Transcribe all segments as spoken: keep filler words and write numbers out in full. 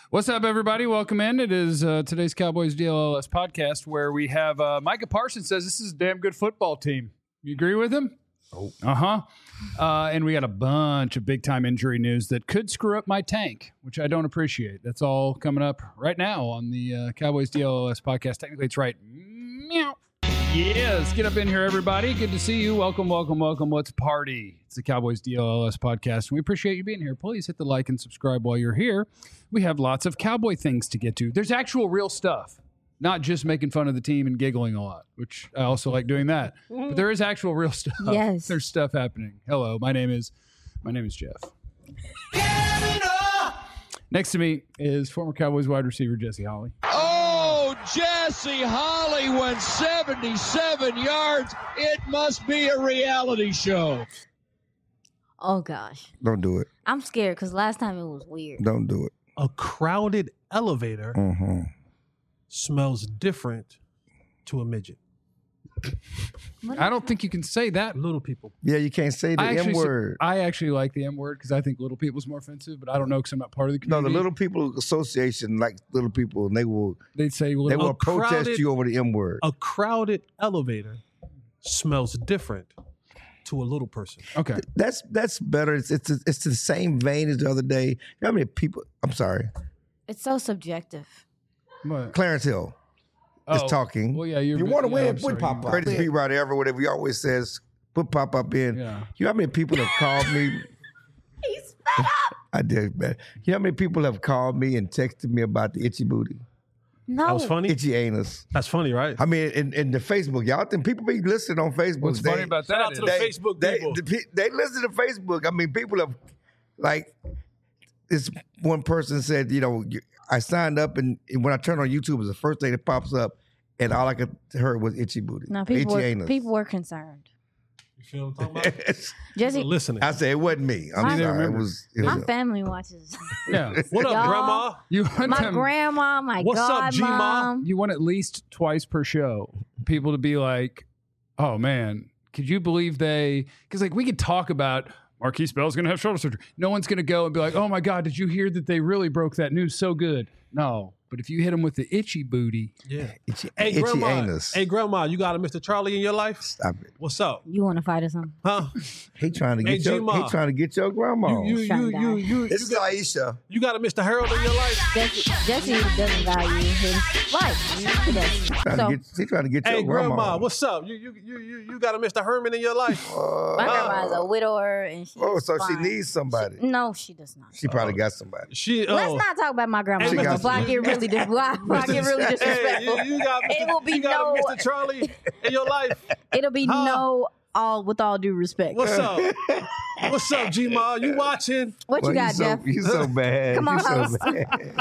What's up, everybody? Welcome in. It is uh, today's Cowboys D L L S podcast where we have uh, Micah Parsons says this is a damn good football team. You agree with him? Oh. Uh-huh. Uh, and we got a bunch of big-time injury news that could screw up my tank, which I don't appreciate. That's all coming up right now on the uh, Cowboys D L L S podcast. Technically, it's right. Meow. Yeah, let's get up in here, everybody. Good to see you. Welcome, welcome, welcome. Let's party. It's the Cowboys D L L S podcast. We appreciate you being here. Please hit the like and subscribe while you're here. We have lots of Cowboy things to get to. There's actual real stuff, not just making fun of the team and giggling a lot, which I also like doing that. But there is actual real stuff. Yes. There's stuff happening. Hello, my name is my name is Jeff. Next to me is former Cowboys wide receiver Jesse Holley. Oh, Jesse Holley went seventy-seven yards. It must be a reality show. Oh, gosh. Don't do it. I'm scared because last time it was weird. Don't do it. A crowded elevator Mm-hmm. smells different to a midget. I don't think you can say that. Little people. Yeah, you can't say the I actually, M word. I actually like the M word because I think little people's more offensive, but I don't know because I'm not part of the No, community. the Little People Association like little people, and they will They'd say they little. will A protest crowded- you over the M word. A crowded elevator smells different to a little person. Okay. That's that's better. It's it's it's the same vein as the other day. You know how many people? I'm sorry, It's so subjective. What? Clarence Hill is Oh, talking. Well, yeah, you're, You wanna yeah, win, I'm put sorry, Pop you- Up. Greatest beat writer ever. Whatever he always says, put Pop Up in. Yeah. You know how many people have called me? He's fed up. I did, man. You know how many people have called me and texted me about the itchy booty, No. That was funny. itchy anus? That's funny, right? I mean, in, in the Facebook, y'all think people be listening on Facebook. What's they, funny about Shout that out is to the they, Facebook they, people. the pe- they listen to Facebook. I mean, people have, like, this one person said, you know, you- I signed up, and, and when I turn on YouTube, it's the first thing that pops up, and all I could hear was itchy booty, No, people itchy were, anus. people were concerned. You feel what I'm talking about? Jesse, People listening. I said it wasn't me. I'm I sorry. It remember. was. It my was family watches. Yeah. What up, Y'all- Grandma? You want My them, grandma, my What's up, G-Ma? godmom. you want at least twice per show people to be like, oh man, could you believe they, because like we could talk about Marquise Bell's going to have shoulder surgery. No one's going to go and be like, oh my God, did you hear that they really broke that news so good? No. But if you hit them with the itchy booty, Yeah. itchy, Hey, itchy Grandma. anus. Hey, Grandma, you got a Mister Charlie in your life? Stop it. What's up? You want to fight or something? Huh? He trying to Hey, get your. G-Ma. He trying to get your grandma. You, you, Trying you, to you, die. you, this is Aisha. you got a Mister Harold in your life? Jesse, Jesse doesn't value his life. He doesn't. Trying So, to get, he trying to get Hey, your Grandma, grandma. what's up? You, you, you, you, you got a Mister Herman in your life? Uh, my grandma is a widower, and she. oh, is so she fine. needs somebody. No, she does not. She probably got somebody. She. Let's oh. not talk about my grandma. Hey, Before I Mister get really, dis- before I get really disrespectful. Hey, you, you got, Mister It will be you got no- a Mister Charlie in your life? It'll be Huh? no, all with all due respect. What's up? What's up, G-Ma? You watching? What Well, you got, you so, Jeff? You so bad. Come on, you so host. bad.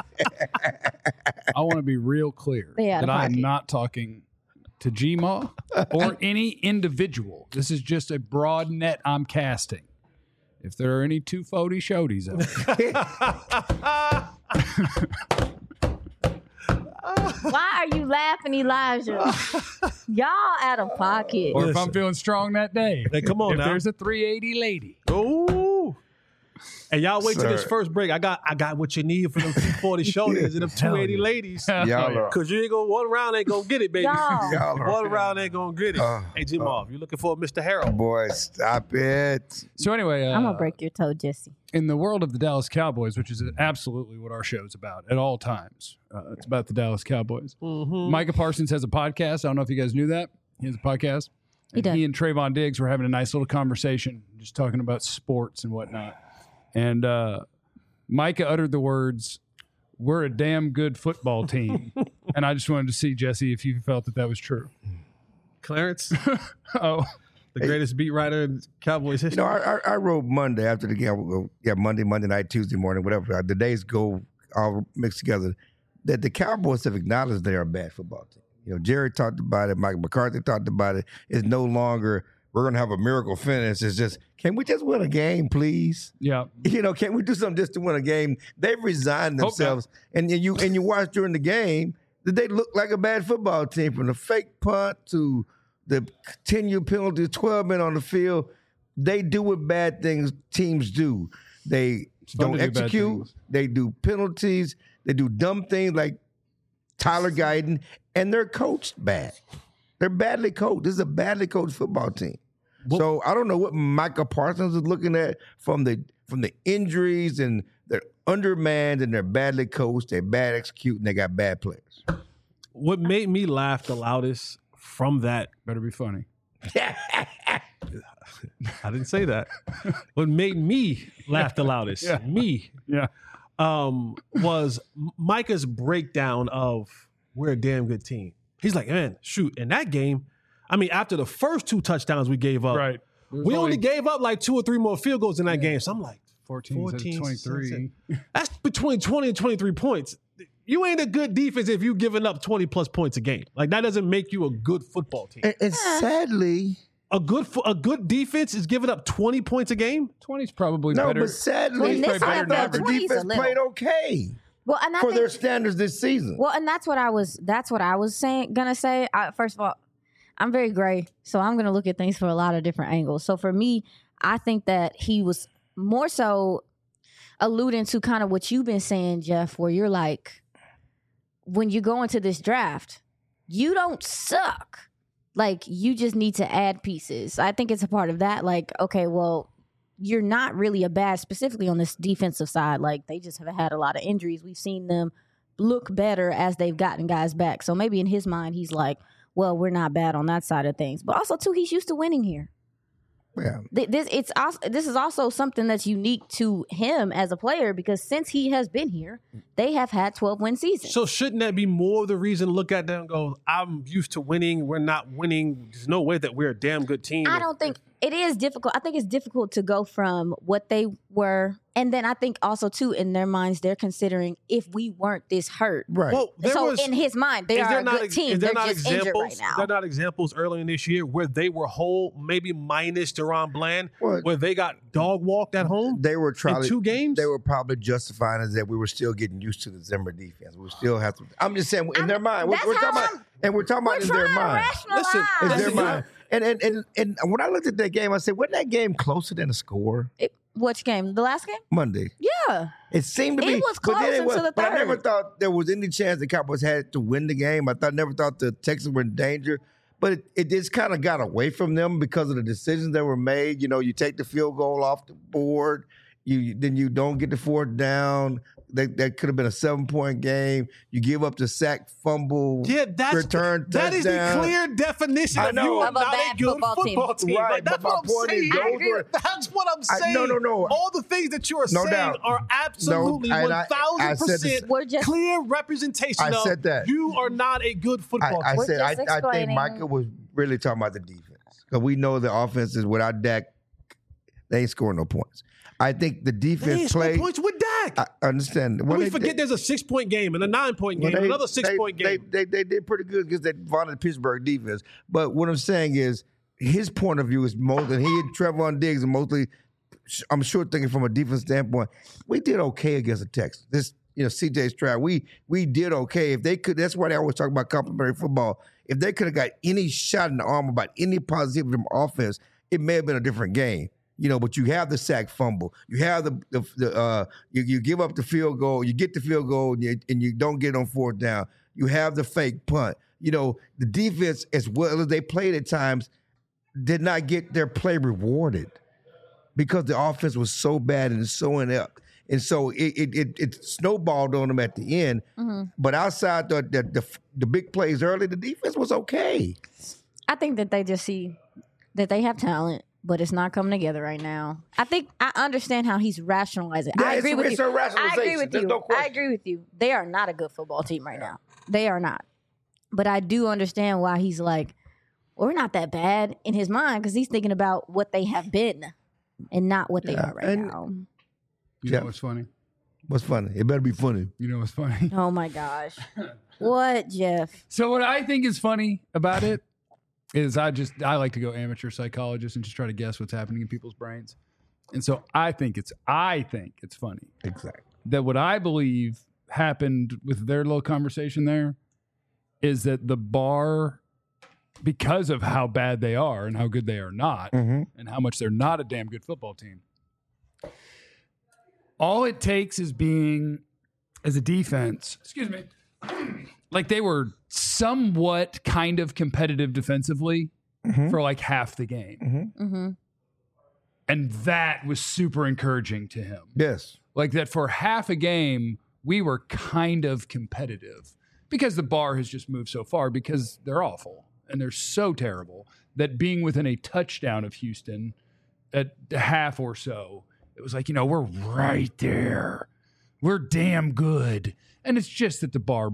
I want to be real clear Stay out that of I am pocket. not talking to G-Ma or any individual. This is just a broad net I'm casting. If there are any two forty shodies out there, Why are you laughing, Elijah? Y'all out of pocket. or if Listen. I'm feeling strong that day, Hey, come on if now. there's a three eighty lady. Ooh. And y'all wait till this Sir. first break. I got I got what you need for them two forty shoulders and them two eighty ladies. Y'all are. Cause you ain't gonna one round ain't gonna get it, baby. Y'all. Y'all are. One round ain't gonna get it. Uh, hey G-Ma, if you're looking for a Mister Harold. Boy, stop it. So anyway, uh, I'm gonna break your toe, Jesse. in the world of the Dallas Cowboys, which is absolutely what our show's about at all times. Uh, it's about the Dallas Cowboys. Mm-hmm. Micah Parsons has a podcast. I don't know if you guys knew that. He has a podcast. He And does. he and Trayvon Diggs were having a nice little conversation, just talking about sports and whatnot. And uh, Micah uttered the words, "We're a damn good football team." And I just wanted to see, Jesse, if you felt that that was true. Clarence, Oh, the greatest beat writer in Cowboys You history. know, I, I, I wrote Monday after the game. I would go, yeah, Monday, Monday night, Tuesday morning, whatever. The days go all mixed together. That the Cowboys have acknowledged they are a bad football team. You know, Jerry talked about it. Mike McCarthy talked about it. It's no longer we're going to have a miracle finish. It's just, can we just win a game, please? yeah. You know, can we do something just to win a game? They've resigned Hope themselves, and, and you and you watch during the game that they look like a bad football team, from the fake punt to the continued penalty, twelve men on the field. They do what bad things teams do. They fun don't to do bad execute. things. They do penalties. They do dumb things like Tyler Guyton, and they're coached bad. They're badly coached. This is a badly coached football team. Well, so I don't know what Micah Parsons is looking at from the from the injuries, and they're undermanned and they're badly coached. They're bad executing. They got bad players. What made me laugh the loudest from that better be funny. I didn't say that. What made me laugh the loudest, yeah. me, yeah, um, was Micah's breakdown of we're a damn good team. He's like, man, shoot, in that game, I mean, after the first two touchdowns we gave up, right? We only, only gave up like two or three more field goals in that yeah. game. So I'm like, fourteen, fourteen twenty-three. That's between twenty and twenty-three points. You ain't a good defense if you giving up twenty plus points a game. Like that doesn't make you a good football team. And, and sadly, a good a good defense is giving up twenty points a game. twenty is probably no, better. but sadly, well, better than the defense played okay. Well, and I for think, their standards this season. Well, and that's what I was. That's what I was saying. Gonna say. I, first of all, I'm very gray, so I'm gonna look at things from a lot of different angles. So for me, I think that he was more so alluding to kind of what you've been saying, Jeff, where you're like, when you go into this draft, you don't suck. Like, you just need to add pieces. I think it's a part of that. Like, okay, well, you're not really a bad, specifically on this defensive side. Like, they just have had a lot of injuries. We've seen them look better as they've gotten guys back. So maybe in his mind, he's like, well, we're not bad on that side of things. But also, too, he's used to winning here. Yeah. This it's also, this is also something that's unique to him as a player, because since he has been here, they have had twelve win seasons. So shouldn't that be more of the reason to look at them and go, I'm used to winning, we're not winning, there's no way that we're a damn good team? I don't think it is difficult. I think it's difficult to go from what they were, and then I think also too in their minds they're considering if we weren't this hurt. Right. Well, so was, in his mind, they are a good team. Is there they're not just examples, injured right now. They're not examples early in this year where they were whole, maybe minus Deron Bland, well, where they got dog walked at home. They were trying in two games. They were probably justifying it that we were still getting used to the Zimmer defense. We still have to. I'm just saying in I'm, their mind. We're, we're talking about, and we're talking we're about in their mind. Listen, in their listen, mind. And, and and and when I looked at that game, I said, wasn't that game closer than a score? It, which game? The last game? Monday. Yeah. It seemed to it be. Was close but then it was until the But third. I never thought there was any chance the Cowboys had to win the game. I thought never thought the Texans were in danger. But it, it just kind of got away from them because of the decisions that were made. You know, you take the field goal off the board, you then you don't get the fourth down. That, that could have been a seven-point game. You give up the sack, fumble, yeah, that's, return that touchdown. is the clear definition I of know. you are Of a not bad a good football football team. team. Right, Like, that's but my what I'm point is saying. those were- That's what I'm I- saying. no, no, no. All the things that you are No saying doubt. are absolutely No, and one I- I thousand said this- percent We're just- clear representation I of said that. you are not a good I, football I team. We're said I, just I think explaining- Micah was really talking about the defense because we know the offense is without Dak, they ain't scoring no points. I think the They ain't defense scored played. points with Dak. I understand. And Well, we they- forget they- there's a six-point game and a nine-point game well, and they- another six-point they, game. They, they, they did pretty good against that vaunted Pittsburgh defense. But what I'm saying is his point of view is mostly, he and Trevon Diggs are mostly, I'm sure thinking from a defense standpoint, we did okay against the Texans. This, you know, C J Stroud, we we did okay. If they could, that's why they always talk about complimentary football. If they could have got any shot in the arm about any positivity from offense, it may have been a different game. You know, but you have the sack fumble. You have the the, the uh, you, you give up the field goal. You get the field goal, and you, and you don't get on fourth down. You have the fake punt. You know, the defense, as well as they played at times, did not get their play rewarded because the offense was so bad and so inept. And so it it, it, it snowballed on them at the end. Mm-hmm. But outside the, the the the big plays early, the defense was okay. I think that they just see that they have talent, but it's not coming together right now. I think I understand how he's rationalizing. Yeah, I agree it's- with it's you. a I agree rationalization. with There's you. no I question. agree with you. They are not a good football team right now. They are not. But I do understand why he's like, well, we're not that bad in his mind, because he's thinking about what they have been and not what they Yeah, are right and- now. You Yeah. know what's funny? What's funny? It better be funny. You know what's funny? Oh my gosh. What, Jeff? So what I think is funny about it is I just I like to go amateur psychologist and just try to guess what's happening in people's brains. And so I think it's I think it's funny Exactly. that what I believe happened with their little conversation there is that the bar, because of how bad they are and how good they are not, Mm-hmm. and how much they're not a damn good football team, all it takes is being as a defense, excuse me, like they were somewhat kind of competitive defensively mm-hmm. for like half the game. Mm-hmm. Mm-hmm. And that was super encouraging to him. Yes. Like that for half a game, we were kind of competitive because the bar has just moved so far because they're awful and they're so terrible that being within a touchdown of Houston at half or so, it was like, you know, we're right there. We're damn good. And it's just that the bar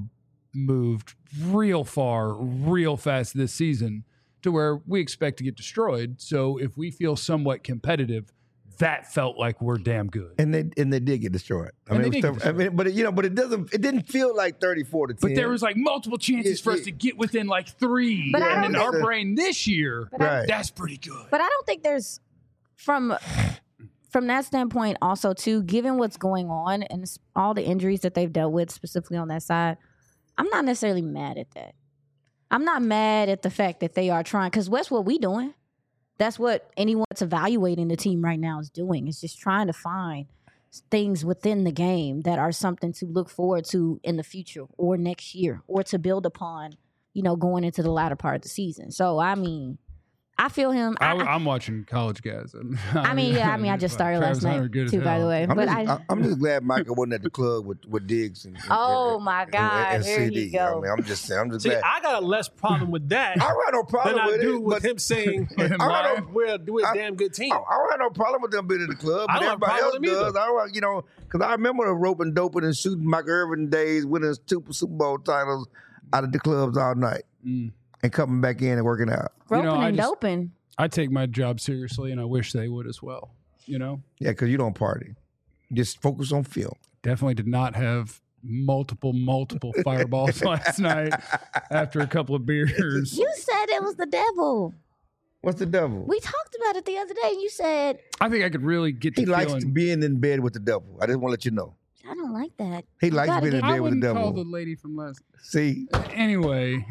moved real far, real fast this season to where we expect to get destroyed. So if we feel somewhat competitive, that felt like we're damn good. And they and they did get destroyed. I And mean, they it did was get tough. I mean, but it, you know, but it doesn't. It didn't feel like thirty-four to ten. But there was like multiple chances It- for us it- to get within like three. But I and don't in our think- brain this year, But I- Right. that's pretty good. But I don't think there's from from that standpoint also too, given what's going on and s- all the injuries that they've dealt with specifically on that side, I'm not necessarily mad at that. I'm not mad at the fact that they are trying, because what's what we doing? That's what anyone that's evaluating the team right now is doing. Is just trying to find things within the game that are something to look forward to in the future or next year or to build upon, you know, going into the latter part of the season. So I mean, I feel him. I, I, I'm watching college guys. And I mean, yeah, I mean, I just started Travis last Hunter night good as too, by hell. the way. I'm But just, I, I, I'm just glad Michael wasn't at the club with, with Diggs and, and Oh, and- my and- God, and here C D. you go. I mean, I'm just saying. I'm just See, glad. I got a less problem with that I don't have no problem than I with do it. with but him saying I don't know. we're, we're a I- damn good team. I, I don't have no problem with them being in the club, I but don't have a everybody else problem with them does. I don't, you know, because I remember the roping, doping, and shooting Michael Irvin days, winning two Super Bowl titles out of the clubs all night, Mm. and coming back in and working out. roping know, I and just- doping. I take my job seriously, and I wish they would as well. You know, Yeah, because you don't party. Just focus on film. definitely did not have multiple, multiple fireballs last night after a couple of beers. You said it was the devil. What's the devil? We talked about it the other day. You said, I think I could really get to He likes feeling. being in bed with the devil. I just want to let you know. I don't like that. He You likes gotta being in get- I bed with the wouldn't call devil. the lady from last. See, Anyway,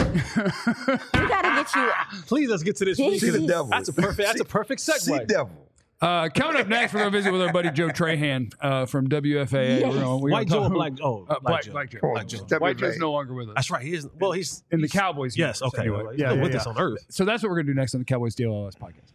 We got to get you. Please, let's get to this. This see the is- devil. That's a perfect. That's a perfect See segue. devil. uh, coming up next, we're gonna visit with our buddy Joe Trahan uh, from W F A A. Yes. We're gonna, we're White gonna Joe or talk- black? Oh, Uh, black black, Joe. black Joe. Come on, Black Joe. step White it Joe's back. no longer with us. That's right. He is. Well, he's in the he's- Cowboys. Yes. universe, Okay. Anyway. Well, Yeah, no yeah, witness yeah. on earth. So that's what we're gonna do next on the Cowboys D L L S podcast.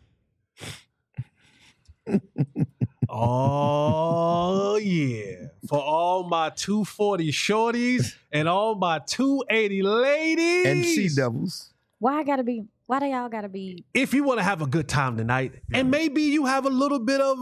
Oh yeah! For all my two forty shorties and all my two eighty ladies And sea devils. Why I got to be, why do y'all got to be? if you want to have a good time tonight, and maybe you have a little bit of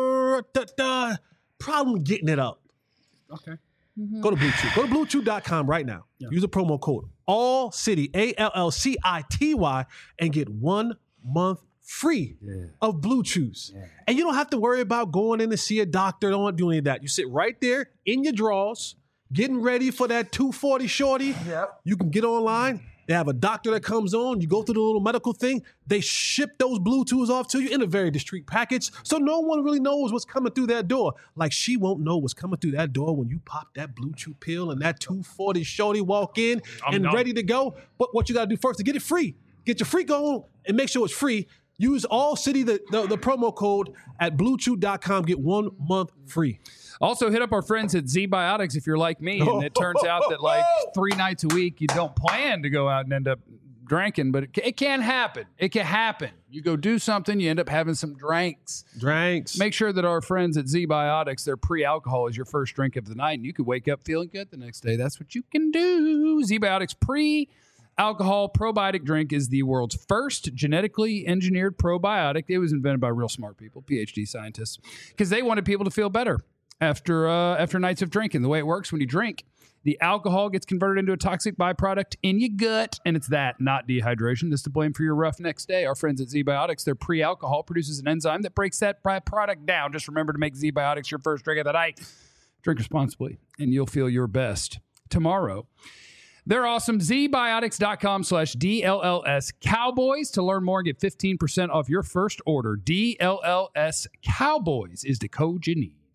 a da, da, problem getting it up, Okay. go to Blue Chew. Go to blue chew dot com right now. Yeah. Use the promo code All City A L L C I T Y and get one month free of Blue Chews. And you don't have to worry about going in to see a doctor. Don't want to do any of that. You sit right there in your drawers, getting ready for that two forty shorty. Yep. You can get online. They have a doctor that comes on. You go through the little medical thing. They ship those Bluetooths off to you in a very discreet package. So no one really knows what's coming through that door. Like she won't know what's coming through that door when you pop that Bluetooth pill and that two forty shorty walk in I'm and done. ready to go. But what you got to do first to get it free, get your free go and make sure it's free. Use All City, the, the, the promo code at blue chew dot com. Get one month free. Also, hit up our friends at Z Biotics if you're like me, and it turns out that like three nights a week you don't plan to go out and end up drinking, but it, ca- it can happen. It can happen. You go do something, you end up having some drinks. Drinks. Make sure that our friends at Z Biotics, their pre-alcohol is your first drink of the night, and you could wake up feeling good the next day. That's what you can do. Z Biotics pre-alcohol probiotic drink is the world's first genetically engineered probiotic. It was invented by real smart people, P H D scientists, because they wanted people to feel better after uh, after nights of drinking. The way it works when you drink, the alcohol gets converted into a toxic byproduct in your gut, and it's that, not dehydration, that's to blame for your rough next day. Our friends at Z-Biotics, their pre-alcohol produces an enzyme that breaks that byproduct down. Just remember to make Z-Biotics your first drink of the night. Drink responsibly, and you'll feel your best tomorrow. They're awesome. Z Biotics dot com slash D L L S Cowboys to learn more and get fifteen percent off your first order. D L L S Cowboys is the code you need.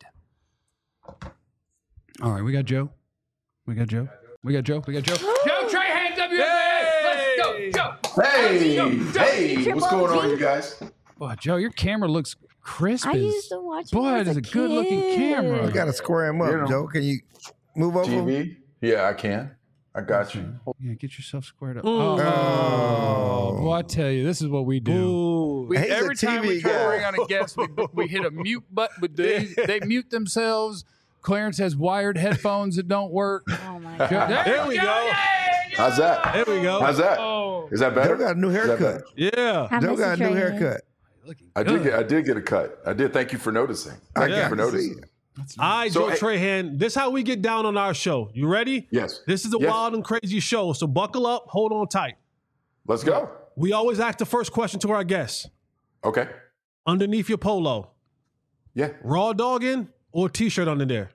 All right, we got Joe. We got Joe. We got Joe. We got Joe. Joe Trahan, W F A. Let's go, Joe. Hey, Joe, Joe. hey, what's going on, you guys? Boy, Joe, your camera looks crisp. I as- used to watch. Boy, it it as is a good-looking kid. camera. You got to square him up, You know. Joe. Can you? Move over. T V? Yeah, I can. I got you. Yeah, get yourself squared up. Mm. Oh, well, I tell you, this is what we do. Ooh. We, He's a every time we T V try to guy. bring on a guest, we, we hit a mute button. But they, they mute themselves. Clarence has wired headphones that don't work. Oh my god. There we go. How's that? There we go. How's that? Oh, Is that better? Joe got a new Is that haircut. better? Yeah. I Joe miss got a you, new Trey. haircut. looking I good. did get I did get a cut. I did. Thank you for noticing. I Thank you got for to see noticing. it. All right, So, Joe hey- Trahan. This is how we get down on our show. You ready? Yes. This is a Yes. wild and crazy show, so buckle up, hold on tight. Let's go. We always ask the first question to our guests. Okay. Underneath your polo, Yeah. raw dogging or t-shirt under there?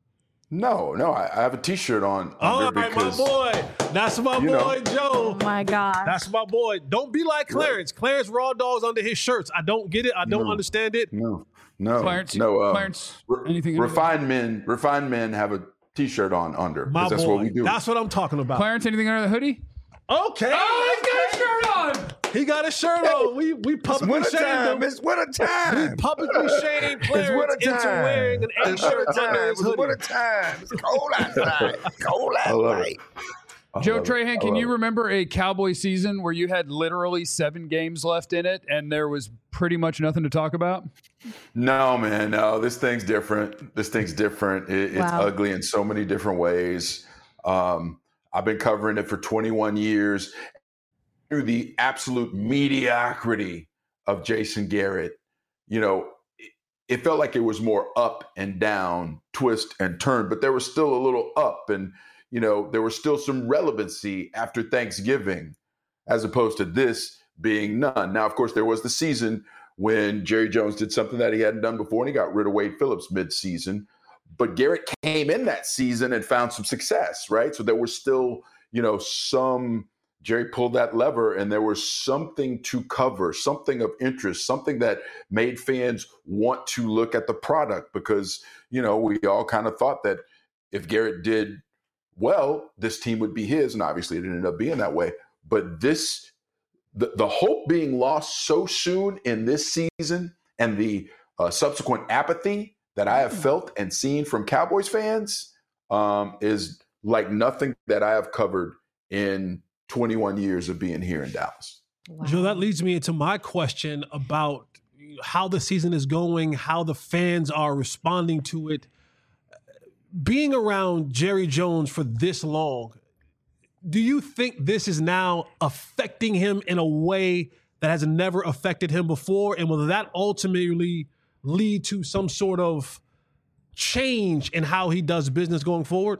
No, no. I, I have a T-shirt on All under right, my because boy. That's my you boy, know. Joe. Oh my god. That's my boy. Don't be like Clarence. Clarence raw dogs under his shirts. I don't get it. I don't No. understand it. no, no, Clarence, no. Um, Clarence, re- anything? refined men, refined men have a T-shirt on under. 'cause My that's boy. what we do. That's what I'm talking about. Clarence, anything under the hoodie? Okay. Oh, he's got a shirt on. He got a shirt on. We we It's publicly winter shamed time. him. It's winter time. Publicly shading It's Clarence winter into time. wearing an It's winter A-shirt time. under his It's hoodie. winter time. It's cold outside. It's cold I love outside. it. I Joe love it. Trahan, I can love you it. remember a Cowboy season where you had literally seven games left in it and there was pretty much nothing to talk about? No, man, no. This thing's different. This thing's different. It, it's Wow. ugly in so many different ways. Um, I've been covering it for twenty-one years. Through the absolute mediocrity of Jason Garrett, you know, it, it felt like it was more up and down, twist and turn, but there was still a little up, and you know, there was still some relevancy after Thanksgiving, as opposed to this being none. Now, of course, there was the season when Jerry Jones did something that he hadn't done before, and he got rid of Wade Phillips mid-season. But Garrett came in that season and found some success, right? So there was still, you know, some Jerry pulled that lever, and there was something to cover, something of interest, something that made fans want to look at the product because, you know, we all kind of thought that if Garrett did well, this team would be his, and obviously it ended up being that way. But this, the, the hope being lost so soon in this season and the uh, subsequent apathy that I have felt and seen from Cowboys fans um, is like nothing that I have covered in twenty-one years of being here in Dallas. Wow. Joe, that leads me into my question about how the season is going, how the fans are responding to it. Being around Jerry Jones for this long, do you think this is now affecting him in a way that has never affected him before? And will that ultimately lead to some sort of change in how he does business going forward?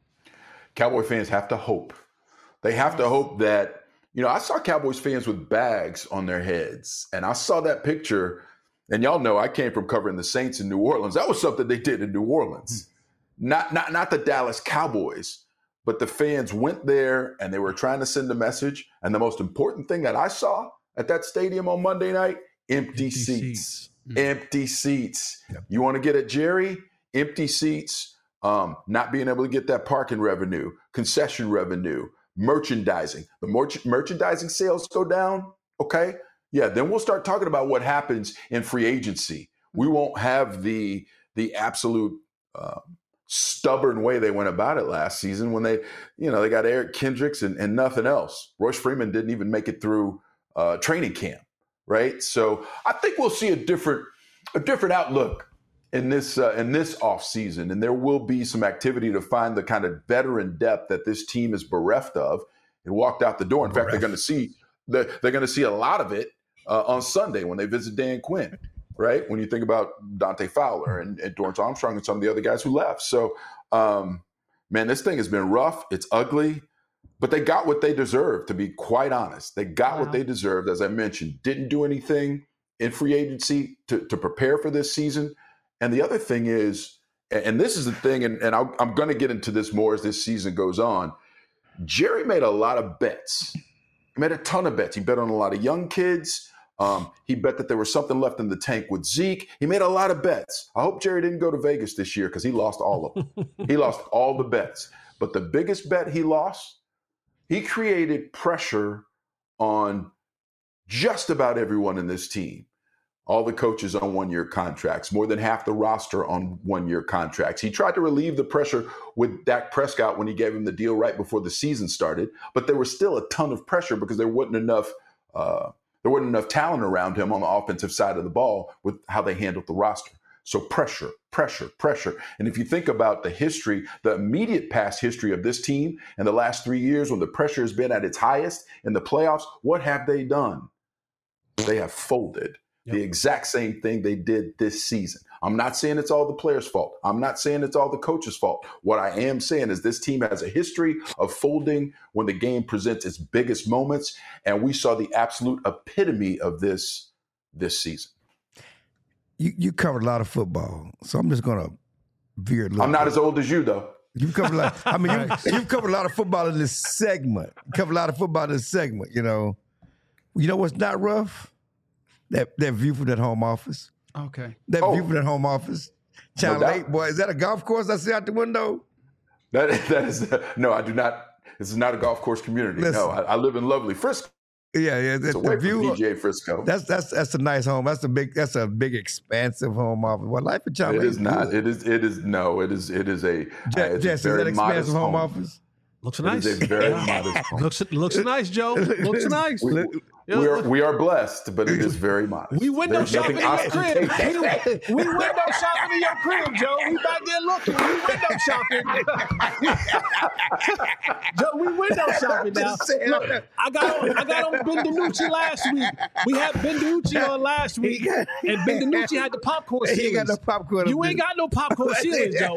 Cowboy fans have to hope. They have to hope that, you know, I saw Cowboys fans with bags on their heads, and I saw that picture, and y'all know I came from covering the Saints in New Orleans. That was something they did in New Orleans. Not, not, not the Dallas Cowboys, but the fans went there and they were trying to send a message. And the most important thing that I saw at that stadium on Monday night, empty, Empty seats. seats. Empty seats. Yep. You want to get at Jerry? Empty seats. Um, not being able to get that parking revenue, concession revenue, merchandising. The merch- merchandising sales go down, okay? Yeah, then we'll start talking about what happens in free agency. We won't have the the absolute uh, stubborn way they went about it last season when they, you know, they got Eric Kendricks and, and nothing else. Royce Freeman didn't even make it through uh, training camp, right? So I think we'll see a different a different outlook in this uh, in this offseason, and there will be some activity to find the kind of veteran depth that this team is bereft of and walked out the door. In fact, they're going to see they're, they're going to see a lot of it uh, on Sunday when they visit Dan Quinn. Right? When you think about Dante Fowler and, and Dorrance Armstrong and some of the other guys who left. So, um, man, this thing has been rough. It's ugly, but they got what they deserved, to be quite honest. They got Wow. what they deserved, as I mentioned. Didn't do anything in free agency to, to prepare for this season. And the other thing is, and this is the thing, and, and I'll, I'm going to get into this more as this season goes on, Jerry made a lot of bets. He made a ton of bets. He bet on a lot of young kids. Um, he bet that there was something left in the tank with Zeke. He made a lot of bets. I hope Jerry didn't go to Vegas this year because he lost all of them. He lost all the bets. But the biggest bet he lost, he created pressure on just about everyone in this team, all the coaches on one-year contracts, more than half the roster on one-year contracts. He tried to relieve the pressure with Dak Prescott when he gave him the deal right before the season started, but there was still a ton of pressure because there wasn't enough uh, there wasn't enough talent around him on the offensive side of the ball with how they handled the roster. So pressure, pressure, pressure. And if you think about the history, the immediate past history of this team in the last three years when the pressure has been at its highest in the playoffs, what have they done? They have folded. Yep. The exact same thing they did this season. I'm not saying it's all the players' fault. I'm not saying it's all the coach's fault. What I am saying is this team has a history of folding when the game presents its biggest moments, and we saw the absolute epitome of this this season. You you covered a lot of football, so I'm just gonna veer a little. I'm not bit. as old as you, though. You've covered a lot. I mean, you, you've covered a lot of football in this segment. You covered a lot of football in this segment. You know, you know what's not rough? That that view from that home office. Okay. That Oh. view from that home office. Channel No doubt. eight, boy. Is that a golf course I see out the window? That that is no, I do not. This is not a golf course community. Listen. No, I, I live in lovely Frisco. Yeah, yeah. It's That, away the view. from P G A Frisco. That's that's that's a nice home. That's a big. That's a big, expansive home office. Well, life in Channel It eight is not. good. It is. It is no. It is. It is a. Je- uh, it's Jess, a is very that modest expansive home, home. office? Looks It nice. is a very modest home. looks looks nice, Joe. Looks nice. We, Yeah, we are look- we are blessed, but it is very modest. We window There's shopping nothing in your crib. ostentatious. We, we window shopping in your crib, Joe. We back there looking. We window shopping. Joe, we window shopping now. Just saying. Look, I got on, I got on Ben DiNucci last week. We had Ben DiNucci on last week, and Ben DiNucci had the popcorn He ceilings. ain't got no popcorn. You ain't got no popcorn ceilings, Joe.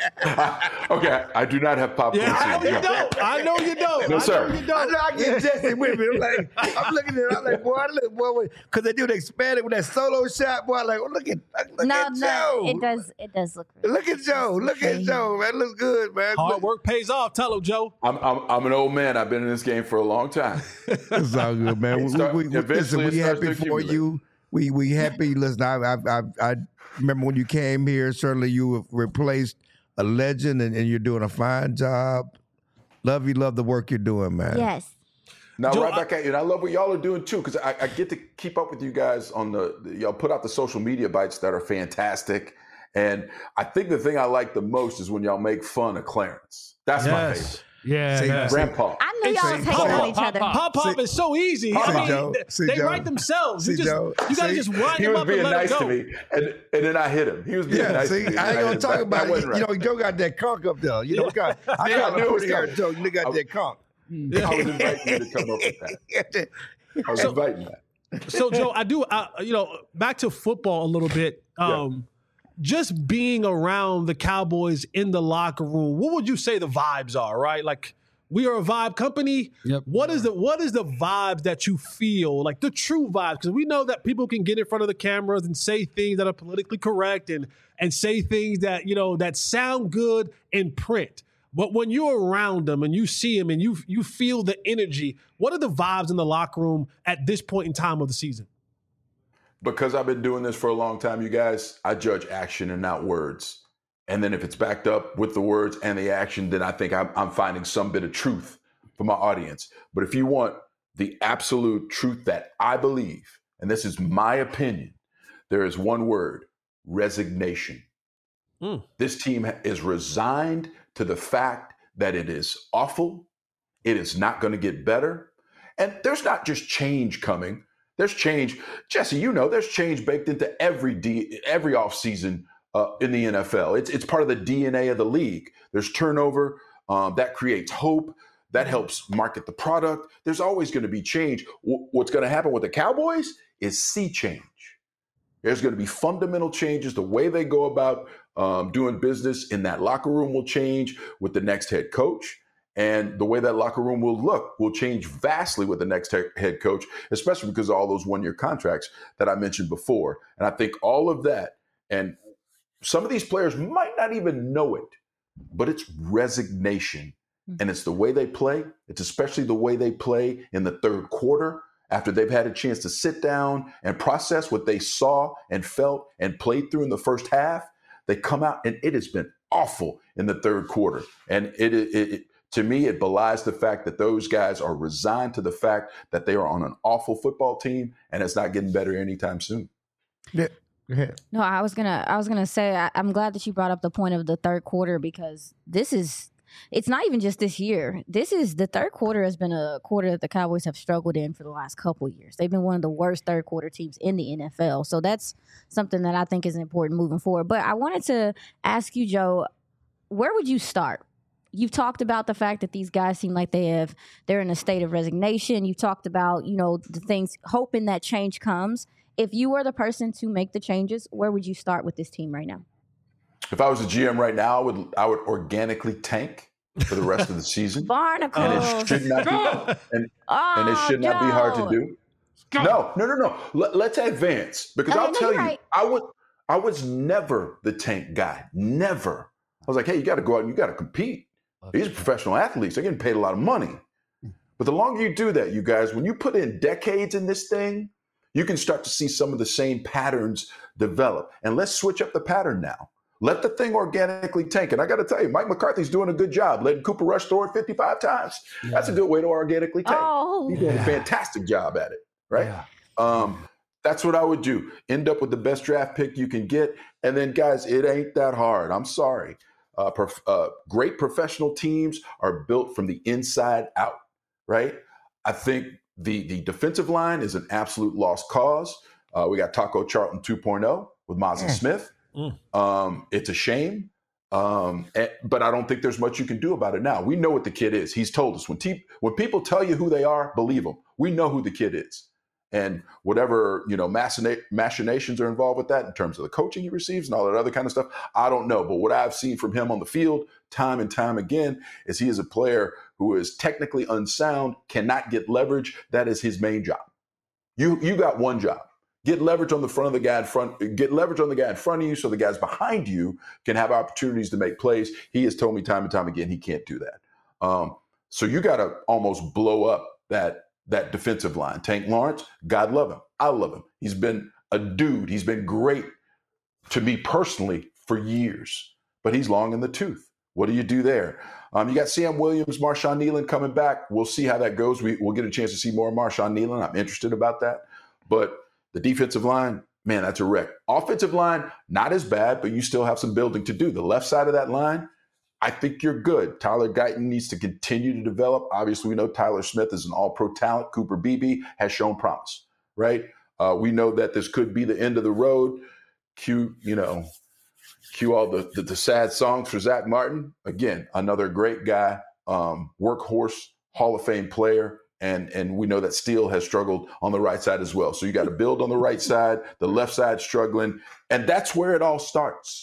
Okay, I do not have popcorn. Yeah, I know ceilings. you don't. I know you don't. No, I sir. know you I don't. know I get Jesse with me. I'm like, I'm looking at it. I'm like, boy, look, boy, because they do the expanded with that solo shot. Boy, I'm like, oh, look at, look no, at no, Joe. it does. It does look. Really Look at Joe. Look at Joe, man. Looks good, man. Hard work pays off. Tell him, Joe. I'm, I'm I'm an old man. I've been in this game for a long time. It's all good, man. We, Start- we, we, listen, eventually it we starts happy to for accumulate. you. We we happy. Listen, I, I I I remember when you came here. Certainly, you have replaced a legend, and, and you're doing a fine job. Love you. Love the work you're doing, man. Yes. Now, Joe, right back at you. And I love what y'all are doing too, because I, I get to keep up with you guys on the, the y'all put out the social media bites that are fantastic. And I think the thing I like the most is when y'all make fun of Clarence. That's my favorite. Yeah. See, yeah. Grandpa. I knew y'all See, was hating Pop, on each other. Pop Pop See- is so easy. See, I mean, Joe. th- See, they Joe. write themselves. You See, just Joe. you gotta See? just wind He them was up being and let nice it to go. me, and and then I hit him. He was being Yeah, nice see, to me. I ain't gonna talk That- about that it. wasn't You know, right. Joe got that conch up there. You know, we got, I Yeah, got I knew it a was pretty hair, coming. Joe. You got that conch. I was inviting you to come up with that. I was inviting that. So Joe, I do. I, you know, back to football a little bit. Um, Just being around the Cowboys in the locker room, what would you say the vibes are? Right, like we are a vibe company. Yep. What is the what is the vibes that you feel like the true vibes? Because we know that people can get in front of the cameras and say things that are politically correct and and say things that you know that sound good in print. But when you're around them and you see them and you you feel the energy, what are the vibes in the locker room at this point in time of the season? Because I've been doing this for a long time, you guys, I judge action and not words. And then if it's backed up with the words and the action, then I think I'm, I'm finding some bit of truth for my audience. But if you want the absolute truth that I believe, and this is my opinion, there is one word: resignation. Mm. This team is resigned to the fact that it is awful. It is not going to get better. And there's not just change coming. There's change. Jesse, you know, there's change baked into every D, every offseason uh, in the N F L. It's it's part of the D N A of the league. There's turnover. Um, that creates hope. That helps market the product. There's always going to be change. W- what's going to happen with the Cowboys is sea change. There's going to be fundamental changes. The way they go about um, doing business in that locker room will change with the next head coach. And the way that locker room will look will change vastly with the next he- head coach, especially because of all those one-year contracts that I mentioned before. And I think all of that, and some of these players might not even know it, but it's resignation. And it's the way they play. It's especially the way they play in the third quarter after they've had a chance to sit down and process what they saw and felt and played through in the first half. They come out and it has been awful in the third quarter. And it, it, it to me, it belies the fact that those guys are resigned to the fact that they are on an awful football team and it's not getting better anytime soon. Yeah. Go ahead. No, I was gonna. I was gonna say. I, I'm glad that you brought up the point of the third quarter because this is. It's not even just this year. This is the third quarter has been a quarter that the Cowboys have struggled in for the last couple of years. They've been one of the worst third quarter teams in the N F L. So that's something that I think is important moving forward. But I wanted to ask you, Joe, where would you start? You've talked about the fact that these guys seem like they have they're in a state of resignation. You've talked about, you know, the things, hoping that change comes. If you were the person to make the changes, where would you start with this team right now? If I was a G M right now, I would I would organically tank for the rest of the season. Barnacles. And it should not be and, oh, and it should not Joe. be hard to do. No, no, no, no. Let, let's advance because Okay, I'll no, tell you're you, right. I would I was never the tank guy. Never. I was like, hey, you got to go out and you got to compete. These are professional athletes. They're getting paid a lot of money. But the longer you do that, you guys, when you put in decades in this thing, you can start to see some of the same patterns develop. And let's switch up the pattern now. Let the thing organically tank. And I got to tell you, Mike McCarthy's doing a good job letting Cooper Rush throw it fifty-five times. Yeah. That's a good way to organically tank. Oh. He's doing Yeah. a fantastic job at it, right? Yeah. Um, that's what I would do. End up with the best draft pick you can get. And then, guys, it ain't that hard. I'm sorry. Uh, prof- uh, great professional teams are built from the inside out, right? I think the the defensive line is an absolute lost cause. Uh, we got Taco Charlton two point oh with Mazin Mm. Smith. Mm. Um, it's a shame, um, and, but I don't think there's much you can do about it now. We know what the kid is. He's told us. When, te- when people tell you who they are, believe them. We know who the kid is. And whatever, you know, machina- machinations are involved with that in terms of the coaching he receives and all that other kind of stuff, I don't know. But what I've seen from him on the field time and time again is he is a player who is technically unsound, cannot get leverage. That is his main job. You you got one job. Get leverage on the front of the guy in front, get leverage on the guy in front of you so the guys behind you can have opportunities to make plays. He has told me time and time again he can't do that. Um, so you got to almost blow up that that defensive line. Tank Lawrence, God love him. I love him. He's been a dude. He's been great to me personally for years, but he's long in the tooth. What do you do there? Um, you got Sam Williams, Marshawn Nealon coming back. We'll see how that goes. We, we'll get a chance to see more of Marshawn Nealon. I'm interested about that. But the defensive line, man, that's a wreck. Offensive line, not as bad, but you still have some building to do. The left side of that line, I think you're good. Tyler Guyton needs to continue to develop. Obviously, we know Tyler Smith is an all-pro talent. Cooper Beebe has shown promise, right? Uh, we know that this could be the end of the road. Cue, you know, cue all the, the, the sad songs for Zach Martin. Again, another great guy, um, workhorse, Hall of Fame player. And, and we know that Steele has struggled on the right side as well. So you got to build on the right side, the left side struggling. And that's where it all starts.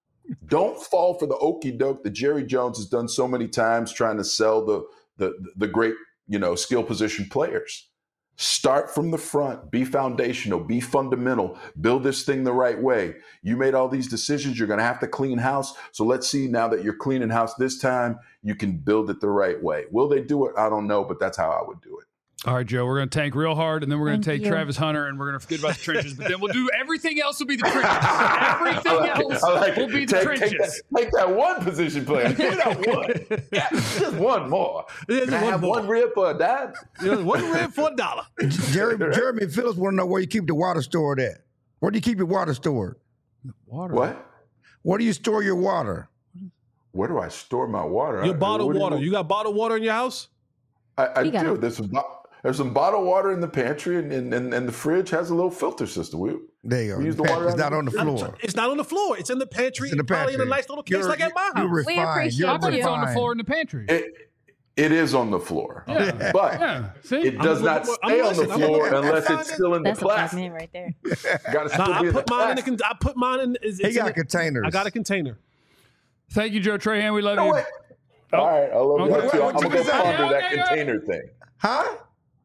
Don't fall for the okie doke that Jerry Jones has done so many times trying to sell the, the, the great, you know, skill position players. Start from the front, be foundational, be fundamental, build this thing the right way. You made all these decisions. You're going to have to clean house. So let's see now that you're cleaning house this time, you can build it the right way. Will they do it? I don't know, but that's how I would do it. All right, Joe, we're going to tank real hard, and then we're going to Thank take you. Travis Hunter, and we're going to forget about the trenches. But then we'll do everything else will be the trenches. Everything I like it. else I like will it. be the take, trenches. Take that, take that one position player. Take that one. Yeah, just one more. Yeah, Can just I one have more. one rib for a dime? You know, one rib for a dollar. Jerry, Jeremy Phillips want to know where you keep the water stored at. Where do you keep your water stored? Water. What? Where do you store your water? Where do I store my water? Your I- bottled what do water. You, You got bottled water in your house? I, I We got do. it. There's some, bo- there's some bottled water in the pantry, and, and, and, and the fridge has a little filter system. We, There you go. We use the Pat- water it's out not of on the the- floor. It's not on the floor. It's in the pantry. It's in the Probably in a pantry. nice little case You're- like at my you're house. We refined. appreciate You're I bet it's on the refined. floor in the pantry. it, it is on the floor, Yeah. but Yeah. See? it does I'm- not I'm- stay I'm on the listening. I'm floor looking. unless I'm it's still in the That's a black plastic. man right there. Got to still Nah, be I in put the mine in. A plastic. con- I put mine in. It's, He it's in got a- containers. I got a container. Thank you, Joe Trahan. We love No, you. wait. All right, I love Okay. you Wait, too. wait, I'm what gonna you go gonna say? ponder that Okay, okay. container thing. Huh?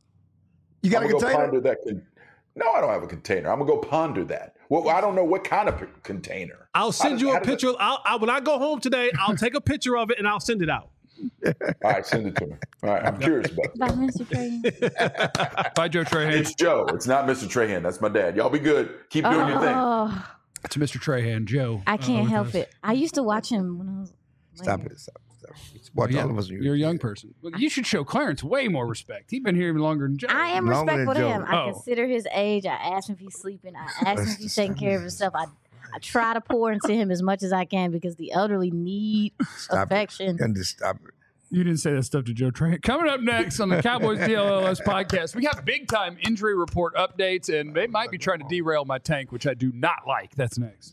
You got I'm a gonna go container? ponder that. Con- no, I don't have a container. I'm gonna go ponder that. Well, I don't know what kind of p- container. I'll How send does- you how a does it- picture. I'll, I, when I go home today, I'll take a picture of it and I'll send it out. All right, send it to me. All right, I'm curious about Bye, that. Mister Trahan. Bye, Joe Trahan. It's Joe. It's not Mister Trahan. That's my dad. Y'all be good. Keep doing your thing. Oh, It's Mister Trahan, Joe. I uh, can't with help us. it. I used to watch him when I was. Stop it. Stop. stuff. Watch yeah, all of us. You're a young person. Well, you should show Clarence way more respect. He's been here even longer than Joe. I am Longer respectful than to Joe. him. I Oh. consider his age. I ask him if he's sleeping. I ask him if he's taking care of himself. I I try to pour into him as much as I can because the elderly need Stop affection. it. And just stop it. You didn't say that stuff to Joe Trent. Coming up next on the Cowboys D L L S podcast, we got big time injury report updates, and they might be trying to derail my tank, which I do not like. That's next.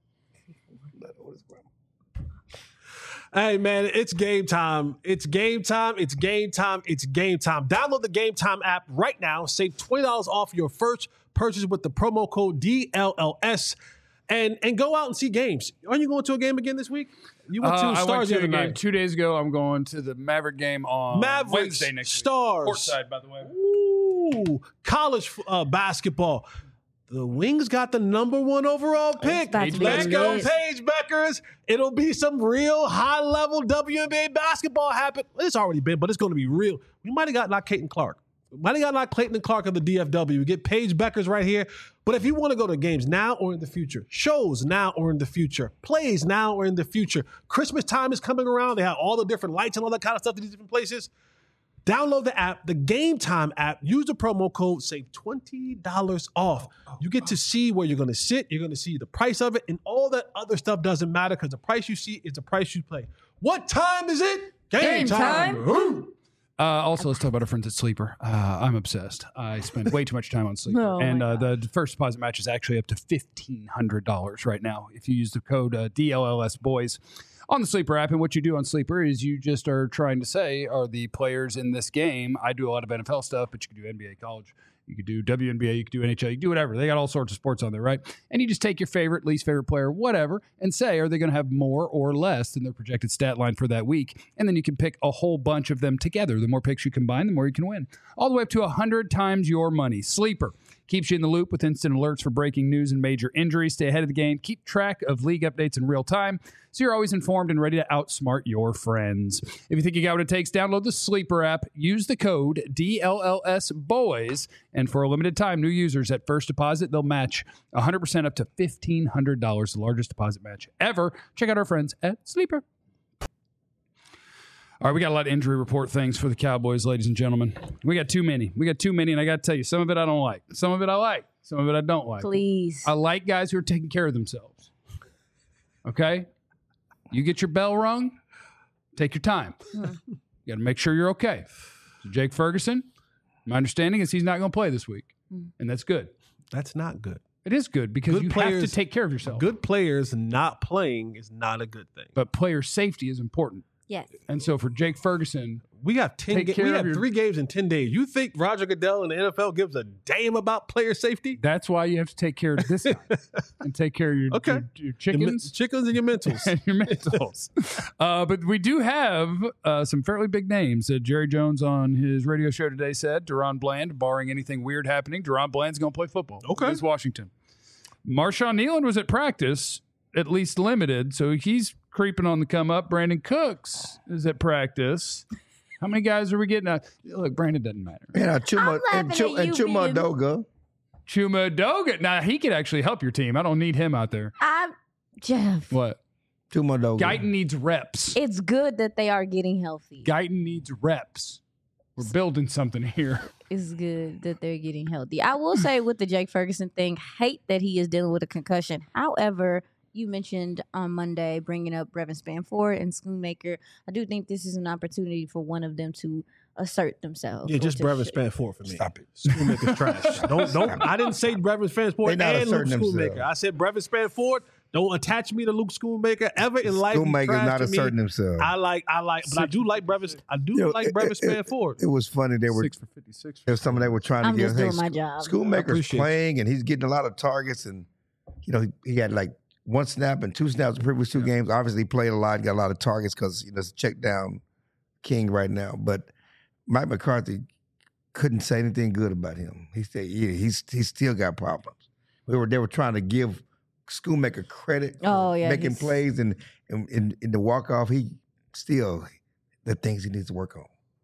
Hey, man, it's game time. It's game time. It's game time. It's game time. Download the Game Time app right now. Save twenty dollars off your first purchase with the promo code D L L S. And and go out and see games. Aren't you going to a game again this week? You went to Uh, I Stars went to the a other game night. two days ago. I'm going to the Maverick game on Mavericks, Wednesday next Stars. week. Courtside, by the way. Ooh, college uh, basketball. The Wings got the number one overall pick. about to be Let's really go, good. Paige Beckers. It'll be some real high-level W N B A basketball happen. It's already been, but it's going to be real. We might have got like Clayton Clark. We might have got like Clayton Clark of the D F W. We get Paige Beckers right here. But if you want to go to games now or in the future, shows now or in the future, plays now or in the future, Christmas time is coming around. They have all the different lights and all that kind of stuff in these different places. Download the app, the Game Time app. Use the promo code, save twenty dollars off. You get to see where you're going to sit. You're going to see the price of it, and all that other stuff doesn't matter because the price you see is the price you play. What time is it? Game time. Woo! Uh, also, let's talk about our friends at Sleeper. Uh, I'm obsessed. I spend way too much time on Sleeper. Oh, and my uh, the first deposit match is actually up to fifteen hundred dollars right now if you use the code uh, D L L S Boys on the Sleeper app. And what you do on Sleeper is you just are trying to say, are the players in this game? I do a lot of N F L stuff, but you can do N B A, college. You could do W N B A, you could do N H L, you could do whatever. They got all sorts of sports on there, right? And you just take your favorite, least favorite player, whatever, and say, are they going to have more or less than their projected stat line for that week? And then you can pick a whole bunch of them together. The more picks you combine, the more you can win. All the way up to one hundred times your money. Sleeper keeps you in the loop with instant alerts for breaking news and major injuries. Stay ahead of the game. Keep track of league updates in real time so you're always informed and ready to outsmart your friends. If you think you got what it takes, download the Sleeper app. Use the code D L L S Boys. And for a limited time, new users at first deposit, they'll match one hundred percent up to fifteen hundred dollars, the largest deposit match ever. Check out our friends at Sleeper. All right, we got a lot of injury report things for the Cowboys, ladies and gentlemen. We got too many. We got too many, and I got to tell you, some of it I don't like. Some of it I like. Some of it I don't like. Please. I like guys who are taking care of themselves. Okay? You get your bell rung, take your time. You got to make sure you're okay. So Jake Ferguson, my understanding is he's not going to play this week, and that's good. That's not good. It is good because Good you have players- to take care of yourself. Good players not playing is not a good thing. But player safety is important. Yes. And so for Jake Ferguson, We have ten. Take Ga- care we of have your- three games in ten days. You think Roger Goodell and the N F L gives a damn about player safety? that's why you have to take care of this guy and take care of your, Okay. your, your Your men- chickens. chickens, and your mentals. And your mentals. uh, but we do have uh, some fairly big names. Uh, Jerry Jones on his radio show today said Deron Bland, barring anything weird happening, Deron Bland's going to play football. Okay. Against Washington. Marshawn Nealon was at practice, at least limited, so he's creeping on the come up. Brandon Cooks is at practice. How many guys are we getting? Uh, look, Brandon doesn't matter. And uh, Chuma I'm and, laughing Chuma, at and you Chuma being- Doga. Chuma Doga. Now, he could actually help your team. I don't need him out there. I'm Jeff. What? Chuma Doga. Guyton needs reps. It's good that they are getting healthy. Guyton needs reps. We're building something here. It's good that they're getting healthy. I will say with the Jake Ferguson thing, hate that he is dealing with a concussion. However, you mentioned on Monday bringing up Brevin Spanford and Schoonmaker. I do think this is an opportunity for one of them to assert themselves. Yeah, or just to Brevin sh- Spanford for me. Stop it. Schoonmaker's trash. Don't don't. I didn't say Brevin They Spanford not and Luke asserting Schoonmaker. themselves. I said Brevin Spanford. Don't attach me to Luke Schoonmaker ever in life. He's Schoonmaker's trash not to me. asserting himself. I like I like, but I do like Brevin. I do You know, like it- Brevin it- it- Spanford. It was funny. They were Six for fifty-six. there was some they were trying I'm to get. just hey, doing my Scho- job. I Schoonmaker's appreciate playing and he's getting a lot of targets, and you know he, he had like one snap and two snaps the previous two games. Obviously, he played a lot, got a lot of targets because you know it's a check down king right now. But Mike McCarthy couldn't say anything good about him. He said yeah, he's he's still got problems. We were they were trying to give Schoonmaker credit for Oh, yeah, making he's- plays and in in, in the walk off. He still the things he needs to work on.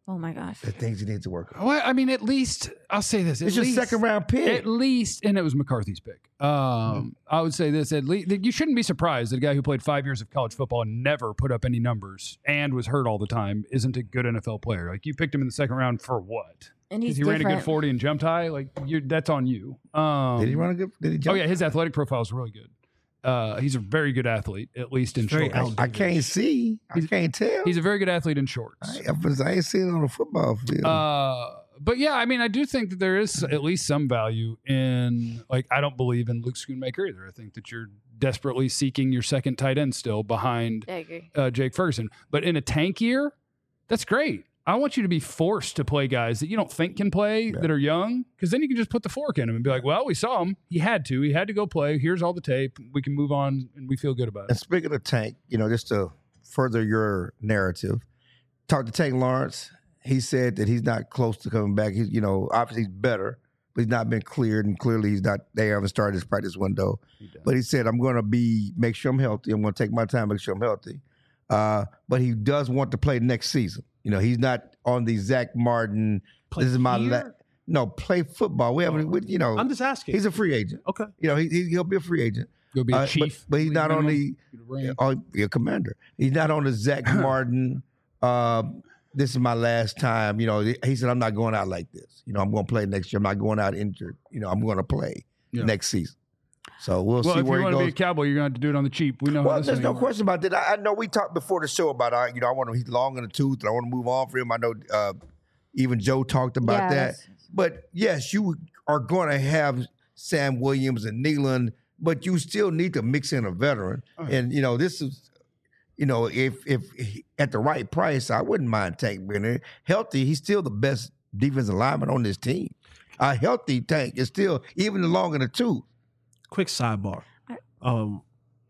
Oh my gosh. The things he needs to work on. Well, I mean, at least I'll say this. It's at your least, second round pick. At least, and it was McCarthy's pick. Um, mm. I would say this. At least you shouldn't be surprised that a guy who played five years of college football and never put up any numbers and was hurt all the time isn't a good N F L player. Like you picked him in the second round for what? And he's he different. ran a good forty and jumped high. Like you're, that's on you. Um, did he run a good? Did he jump? Oh yeah, his athletic profile is really good. Uh, he's a very good athlete, at least in Very shorts. I can't see. I He's- can't tell. He's a very good athlete in shorts. I, I ain't seen it on the football field. Uh, but yeah, I mean, I do think that there is at least some value in, like, I don't believe in Luke Schoonmaker either. I think that you're desperately seeking your second tight end still behind I agree. uh, Jake Ferguson. But in a tank year, that's great. I want you to be forced to play guys that you don't think can play Yeah. that are young, because then you can just put the fork in him and be like, well, we saw him. He had to. He had to go play. Here's all the tape. We can move on, and we feel good about And it. speaking of Tank, you know, just to further your narrative, talked to Tank Lawrence. He said that he's not close to coming back. He's, you know, obviously he's better, but he's not been cleared, and clearly he's not. They haven't started his practice window. But he said, "I'm going to be make sure I'm healthy. I'm going to take my time, make sure I'm healthy." Uh, but he does want to play next season. You know, he's not on the Zach Martin. Play this is my la- here? no play football. We haven't. We, you know, I'm just asking. he's a free agent. okay. You know, he, he he'll be a free agent. Go be a Uh, but- chief. but he's not on the- Ring. Oh, be a commander. He's not on the Zach Martin. Uh, this is my last time. You know, he said, "I'm not going out like this. You know, I'm going to play next year. I'm not going out injured. You know, I'm going to play Yeah. next season." So we'll, Well, see if where you he want to goes. be a Cowboy, you're going to have to do it on the cheap. We know how Well, this there's thing no works. question about that. I, I know we talked before the show about, uh, you know, I want him. He's long in the tooth, and I want to move on for him. I know uh, even Joe talked about Yeah, that. that's- But yes, you are going to have Sam Williams and Nealon, but you still need to mix in a veteran. And you know, this is, you know, if if he, at the right price, I wouldn't mind Tank being there. Healthy, he's still the best defensive lineman on this team. A healthy Tank is still even long in the tooth. Quick sidebar. Um,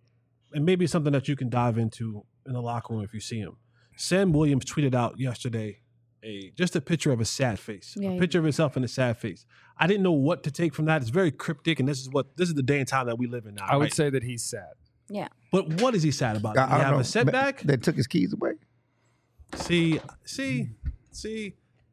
and maybe something that you can dive into in the locker room if you see him. Sam Williams tweeted out yesterday a just a picture of a sad face, Yeah, a yeah. picture of himself in a sad face. I didn't know what to take from that. It's very cryptic, and this is what this is the day and time that we live in now. I would right? say that he's sad. Yeah. But what is he sad about? Did I, he I don't have know. a setback? They took his keys away. See, see, see.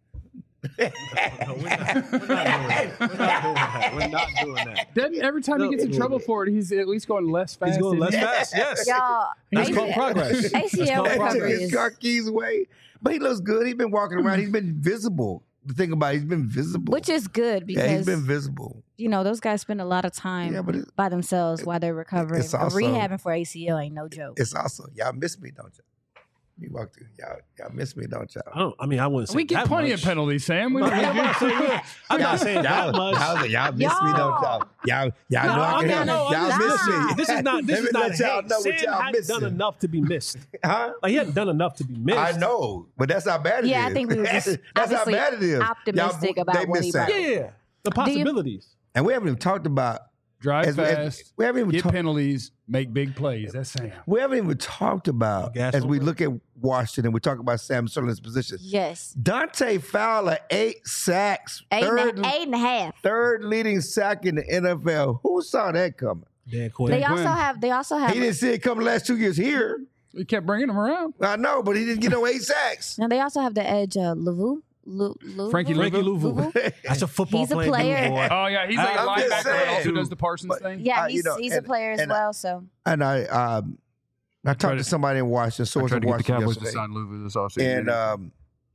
No, no, we're, not, we're not doing that. We're not doing that. We're not doing that. Then every time No, he gets in it- trouble for it, he's at least going less fast. He's going less than- fast. Yes, Y'all, that's A- called progress. That's A C L called They took recovery progress. his is- car keys away, but he looks good. He's been walking around. He's been visible. The thing about it, he's been visible. which is good yeah, he's because been visible. you know those guys spend a lot of time Yeah, but it- by themselves while they're recovering. it's But also- rehabbing for A C L ain't no joke. It's also y'all miss me, don't y'all? You walk through, y'all, y'all miss me, don't y'all? I don't. I mean, I wouldn't say We get that plenty much. of penalties, Sam. We I'm don't not saying, I'm not saying that Y'all, much. y'all, y'all miss me, don't y'all? Y'all, y'all No, know I I'm can not- help. no, Y'all I'm miss just- me. This is not. This Let is me not let y'all hate. know what Sam y'all hadn't done missing. enough to be missed. Huh? Like he hadn't done enough to be missed. I know, but that's how bad it is. Yeah, I think we were just that's how obviously bad it is. optimistic Y'all, about they what miss he brought. out. Yeah, yeah. The you- possibilities. And we haven't even talked about. drive As we- as- fast, we haven't even get talked- penalties, make big plays. That's Sam. We haven't even talked about Gas as we over. look at Washington. We talk about Sam Sutherland's position. Yes, Dante Fowler, eight sacks, eight third, and, a, eight and a half. third leading sack in the N F L. Who saw that coming? Dan Quinn. They Quinn. also have. They also have. He didn't see it coming the last two years here. We kept bringing him around. I know, but he didn't get no eight sacks. Now they also have the edge. Uh, Lavu, Lu, Lu, Frankie Frankie Louvu. Louvu. That's a football He's a playing player. boy. Oh yeah, he's like a I'm just linebacker that also saying. does the Parsons But- thing. Yeah, Uh, you he's, know, he's and- a player as and I- well. So And I, um, I talked tried to to- somebody in Washington, source in Washington yesterday, Louvu this offseason. and um,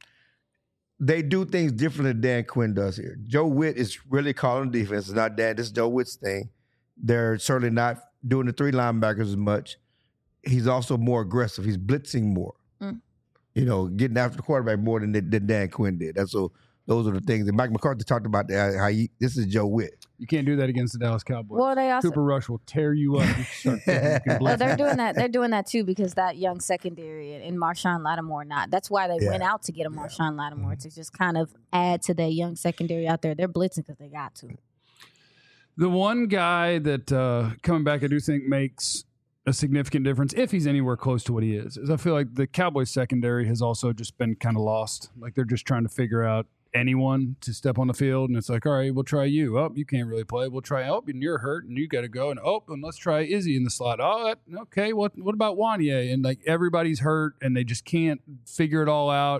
they do things differently than Dan Quinn does here. Joe Witt is really calling defense. It's not Dan. This is Joe Witt's thing. They're certainly not doing the three linebackers as much. He's also more aggressive. He's blitzing more. Mm. You know, getting after the quarterback more than, than Dan Quinn did. That's so. Those are the things. And Mike McCarthy talked about that. How he, this is Joe Witt. you can't do that against the Dallas Cowboys. well, they also. Cooper Rush will tear you up. If you start thinking you can Well, blitz. they're doing that. They're doing that too because that young secondary and Marshawn Lattimore not. That's why they Yeah. went out to get a Marshawn Lattimore Mm-hmm. to just kind of add to their young secondary out there. They're blitzing because they got to. The one guy that uh, coming back, I do think makes a significant difference if he's anywhere close to what he is. Is I feel like the Cowboys secondary has also just been kind of lost. Like they're just trying to figure out anyone to step on the field, and it's like, all right, we'll try you. Oh, you can't really play. We'll try. Oh, and you're hurt, and you got to go. And oh, and let's try Izzy in the slot. Oh, that, okay. What what about Wanye? And like everybody's hurt, and they just can't figure it all out.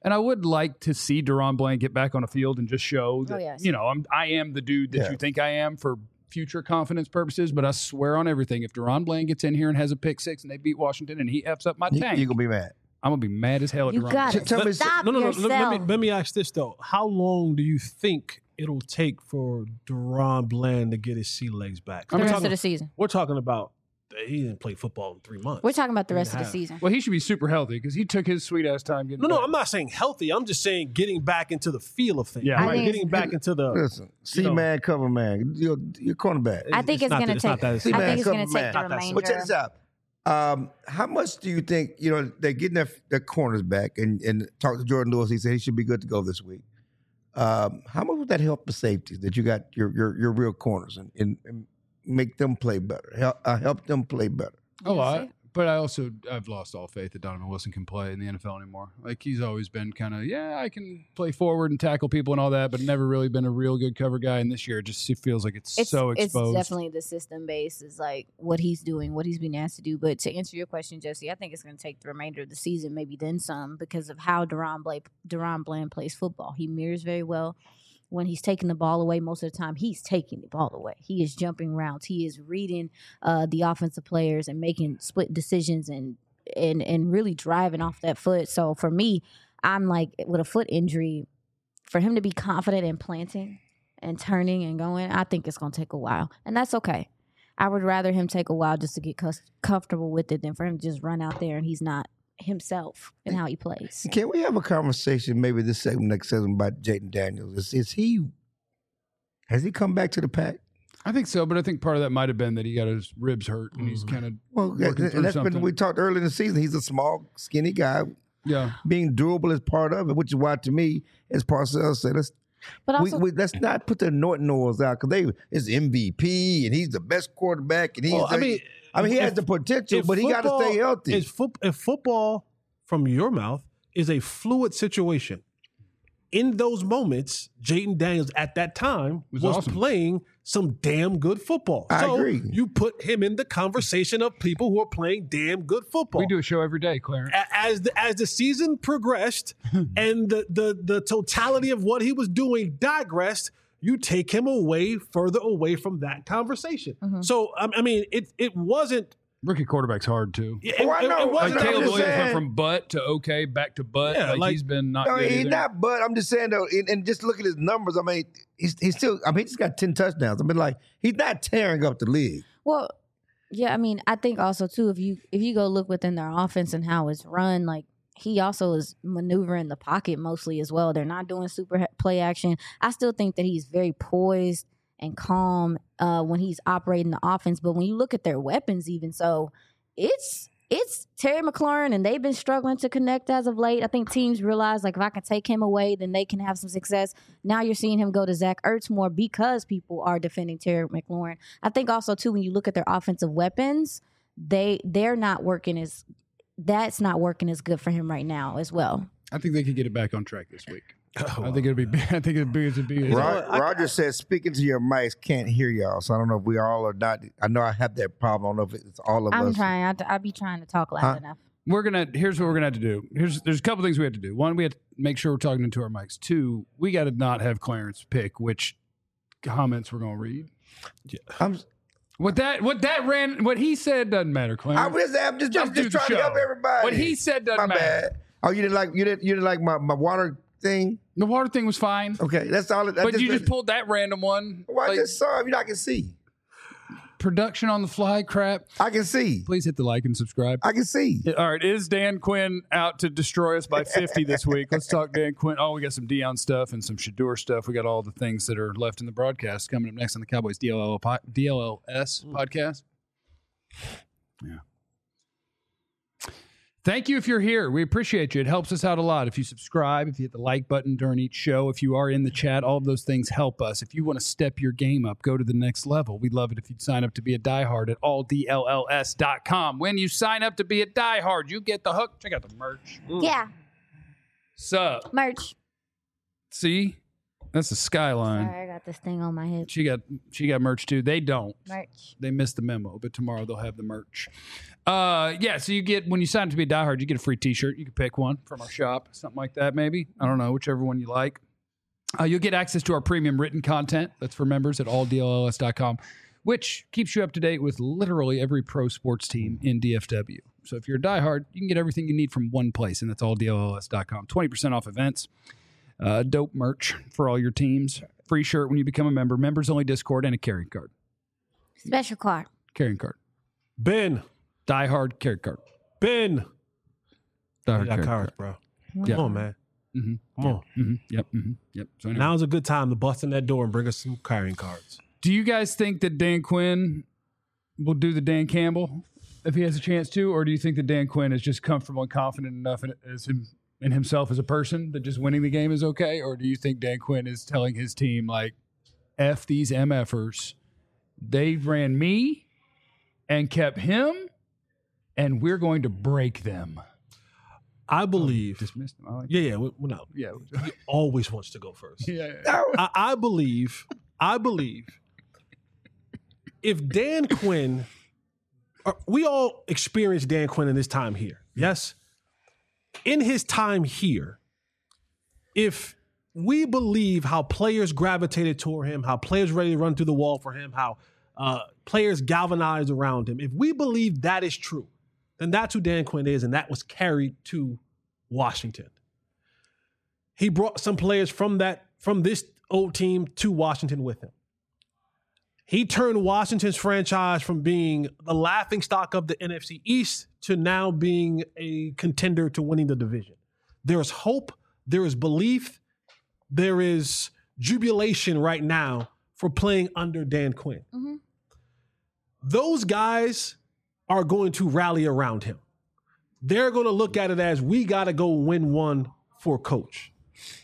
And I would like to see Deron Bland get back on a field and just show that, Oh, yes. you know, I'm, I am the dude that Yeah. you think I am for future confidence purposes. But I swear on everything, if Deron Bland gets in here and has a pick six and they beat Washington and he F's up my You, tank, you're going to be mad. I'm going to be mad as hell at You Deron got Bland. it. Tell me- Stop No, no, no. Let, yourself. let me let me ask this though: how long do you think it'll take for Deron Bland to get his sea legs back? the We're rest talking, of the season. we're talking about he didn't play football in three months. We're talking about the Three rest of and the a half. season. Well, he should be super healthy because he took his sweet ass time getting No, no, back. I'm not saying healthy. I'm just saying getting back into the feel of things. Yeah. I Right, think getting it's- back into the. Listen, C you know. man, cover man. You're, you're cornerback. I think it's, not going that- to it's not take. that I See, man, think it's going to come take man. the Not that remainder. But check this out. Um, how much do you think, you know, they're getting their, their corners back and, and talk to Jordan Lewis. He said he should be good to go this week. Um, how much would that help the safeties that you got your your, your real corners and, and, and make them play better? Help, uh, help them play better. A lot. But I also, I've lost all faith that Donovan Wilson can play in the N F L anymore. Like, he's always been kind of, yeah, I can play forward and tackle people and all that, but never really been a real good cover guy. And this year, it just it feels like it's, It's, so it's exposed. definitely the system base is like what he's doing, what he's being asked to do. But to answer your question, Jesse, I think it's going to take the remainder of the season, maybe then some, because of how Deron Bland, Deron Bland plays football. He mirrors very well. When he's taking the ball away, most of the time he's taking the ball away. He is jumping routes. He is reading uh, the offensive players and making split decisions and and and really driving off that foot. So for me, I'm like, with a foot injury, for him to be confident in planting and turning and going, I think it's going to take a while, and that's okay. I would rather him take a while just to get cus- comfortable with it than for him to just run out there and he's not himself in how he plays. Can we have a conversation maybe this segment, next segment about Jaden Daniels? Is, is he, has he come back to the pack? I think so, but I think part of that might have been that he got his ribs hurt and Mm-hmm. he's kind of, Well, that, Working through and that's something. been, we talked earlier in the season. He's a small, skinny guy. yeah. Being durable is part of it, which is why, to me, as Parcells said, let's But we, also, we, let's not put the Norton Noahs out because they is M V P and he's the best quarterback and he's. Well, I the- mean, I mean, he if- has the potential, if but he got to football stay healthy. Is foot, if football, from your mouth, is a fluid situation, in those moments, Jaden Daniels at that time Was was, awesome. playing some damn good football. I so agree. you put him in the conversation of people who are playing damn good football. We do a show every day, Clarence. A- As the, as the season progressed and the, the the totality of what he was doing digressed, you take him away further away from that conversation. Mhm. So I I mean, it it wasn't. Rookie quarterback's hard, too. It, Oh, I it- know. it Like, wasn't. I'm Caleb just Williams went saying. from butt to okay, back to butt. Yeah, like, like- he's been not no, good he's either. not. But I'm just saying though, and, and just look at his numbers. I mean, he's he's still. I mean, he just got ten touchdowns. I mean, like he's not tearing up the league. well, yeah, I mean, I think also too, if you if you go look within their offense and how it's run, like he also is maneuvering the pocket mostly as well. They're not doing super he- play action. I still think that he's very poised and calm uh, when he's operating the offense. But when you look at their weapons, even so, it's it's Terry McLaurin, and they've been struggling to connect as of late. I think teams realize, like, if I can take him away, then they can have some success. Now you're seeing him go to Zach Ertz more because people are defending Terry McLaurin. I think also, too, when you look at their offensive weapons, they, they're not working as – that's not working as good for him right now as well. I think they could get it back on track this week. Oh, I think it'll be. I think it'll be. It'll be know Ro- what? I- Roger says, speaking to your mics, can't hear y'all. So I don't know if we all are not. I know I have that problem. I don't know if it's all of I'm us. trying. I, I'll be trying to talk loud Huh? enough. We're gonna. Here's what we're gonna have to do. Here's. There's a couple things we have to do. One, we have to make sure we're talking into our mics. Two, we got to not have Clarence pick which comments we're gonna read. I'm, What that. What that ran. What he said doesn't matter, Clarence. I'm just, I'm just, Just I'm do just the trying to show. help everybody. What he said doesn't my matter. bad. Oh, you didn't like you didn't you didn't like my, my water thing? The water thing was fine, Okay, that's all. It, I but you just pulled that random one. Well, I Like, just saw it. You know, I can see. production on the fly crap. I can see. Please hit the like and subscribe. I can see. All right, is Dan Quinn out to destroy us by fifty this week? Let's talk Dan Quinn. Oh, we got some Dion stuff and some Shador stuff. We got all the things that are left in the broadcast coming up next on the Cowboys D L L po- D L L S podcast. Yeah. Thank you if you're here. We appreciate you. It helps us out a lot. If you subscribe, if you hit the like button during each show, if you are in the chat, all of those things help us. If you want to step your game up, go to the next level. We'd love it if you'd sign up to be a diehard at all D L L S dot com. When you sign up to be a diehard, you get the hook. Check out the merch. Yeah, Sup? merch. See? That's the Skyline. Sorry, I got this thing on my head. She got she got merch too. They don't. Merch. They missed the memo, but tomorrow they'll have the merch. Uh, yeah. So you get when you sign up to be a diehard, you get a free T-shirt. You can pick one from our shop, something like that, maybe. I don't know, whichever one you like. Uh, you'll get access to our premium written content. That's for members at all D L L S dot com, which keeps you up to date with literally every pro sports team in D F W. So if you're a diehard, you can get everything you need from one place, and that's all D L L S dot com. twenty percent off events. Uh, dope merch for all your teams. Free shirt when you become a member. Members only Discord and a carrying card. Special card. Carrying card. Ben. Die Hard carrying card. Ben. Die Hard got carrying cards, card. bro. Yeah. Come on, man. Mm-hmm. Come on. Mm-hmm. Yep. Mm-hmm. Yep. So anyway. Now's a good time to bust in that door and bring us some carrying cards. Do you guys think that Dan Quinn will do the Dan Campbell if he has a chance to, or do you think that Dan Quinn is just comfortable and confident enough in, as him, in himself as a person that just winning the game is okay, or do you think Dan Quinn is telling his team like, F these MFers, they ran me and kept him, and we're going to break them? I believe. Oh, dismissed him. I like yeah, yeah. We, we, no, yeah. he always wants to go first. yeah, yeah. I, I believe. I believe. If Dan Quinn, or we all experienced Dan Quinn in his time here. Yes. In his time here, if we believe how players gravitated toward him, how players ready to run through the wall for him, how uh, players galvanized around him, if we believe that is true, then that's who Dan Quinn is, and that was carried to Washington. He brought some players from that from this old team to Washington with him. He turned Washington's franchise from being the laughingstock of the N F C East to now being a contender to winning the division. There is hope. There is belief. There is jubilation right now for playing under Dan Quinn. Mm-hmm. Those guys are going to rally around him. They're going to look at it as, we got to go win one for coach.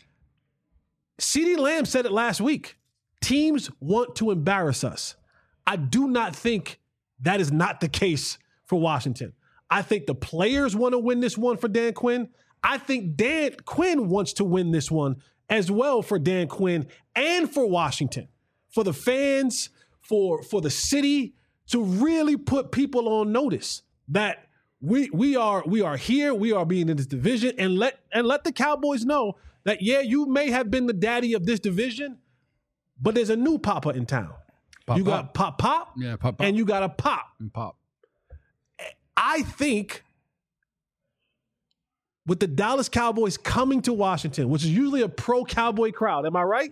CeeDee Lamb said it last week. Teams want to embarrass us. I do not think that is not the case for Washington. I think the players want to win this one for Dan Quinn. I think Dan Quinn wants to win this one as well for Dan Quinn and for Washington, for the fans, for, for the city, to really put people on notice that we we are we are here, we are being in this division, and let and let the Cowboys know that, yeah, you may have been the daddy of this division, but there's a new Papa in town. Pop, you pop. got Pop Pop, Yeah, Pop, Pop. and you got a Pop. And Pop. I think with the Dallas Cowboys coming to Washington, which is usually a pro-Cowboy crowd, am I right?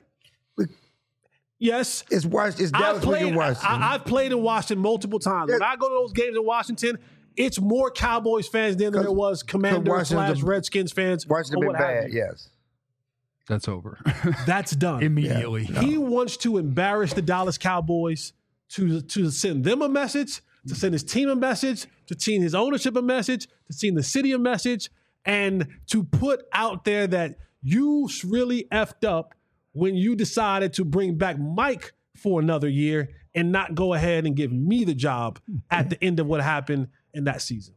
Yes. It's Washington. It's Dallas. I've played, in Washington. I, I've played in Washington multiple times. When Yeah. I go to those games in Washington, it's more Cowboys fans than there was Commanders Washington's slash a- Redskins fans. Washington or been what have bad. you. Yes. That's over. That's done. Immediately. He wants to embarrass the Dallas Cowboys to, to send them a message, to send his team a message, to send his ownership a message, to send the city a message, and to put out there that you really effed up when you decided to bring back Mike for another year and not go ahead and give me the job at the end of what happened in that season.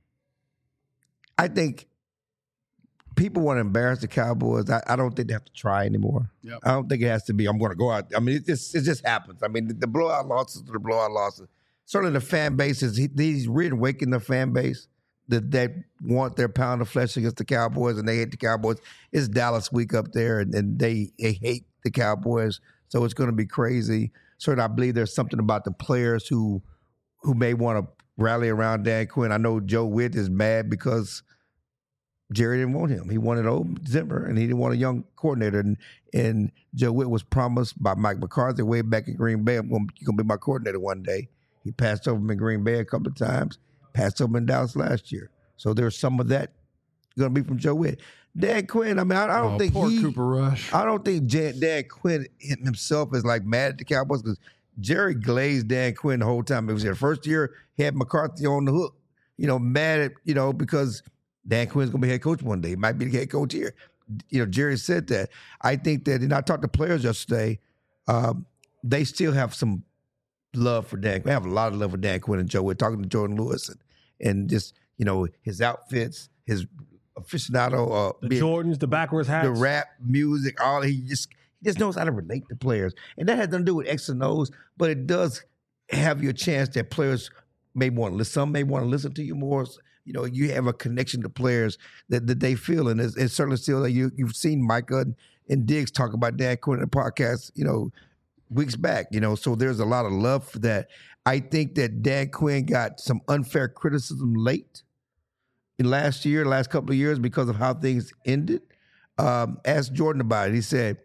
I think people want to embarrass the Cowboys. I, I don't think they have to try anymore. Yep. I don't think it has to be, I'm going to go out. I mean, it just, it just happens. I mean, the, the blowout losses are the blowout losses. Certainly the fan base is, he, he's really waking the fan base that, that want their pound of flesh against the Cowboys and they hate the Cowboys. It's Dallas week up there and, and they, they hate the Cowboys. So it's going to be crazy. Certainly I believe there's something about the players who who may want to rally around Dan Quinn. I know Joe Witt is mad because Jerry didn't want him. He wanted old Zimmer, and he didn't want a young coordinator. And, and Joe Witt was promised by Mike McCarthy way back in Green Bay, I'm going, you're going to be my coordinator one day. He passed over him in Green Bay a couple of times, passed over him in Dallas last year. So there's some of that going to be from Joe Witt. Dan Quinn, I mean, I, I don't Oh, think poor he, Cooper Rush. I don't think Jan, Dan Quinn himself is like mad at the Cowboys because Jerry glazed Dan Quinn the whole time. It was the first year he had McCarthy on the hook, you know, mad at, you know, because Dan Quinn's going to be head coach one day. He might be the head coach here. You know, Jerry said that. I think that, and I talked to players yesterday, um, they still have some love for Dan. They have a lot of love for Dan Quinn and Joe. We're talking to Jordan Lewis and, and just, you know, his outfits, his aficionado, uh, The being- Jordans, the backwards hats. the rap music, all he just He just knows how to relate to players. And that has nothing to do with X and O's, but it does have you a chance that players may want to listen. Some may want to listen to you more. You know, you have a connection to players that, that they feel. And it's, it's certainly still, you, you've seen Micah and, and Diggs talk about Dan Quinn in the podcast, you know, weeks back, you know, so there's a lot of love for that. I think that Dan Quinn got some unfair criticism late in last year, last couple of years because of how things ended. Um, asked Jordan about it. He said,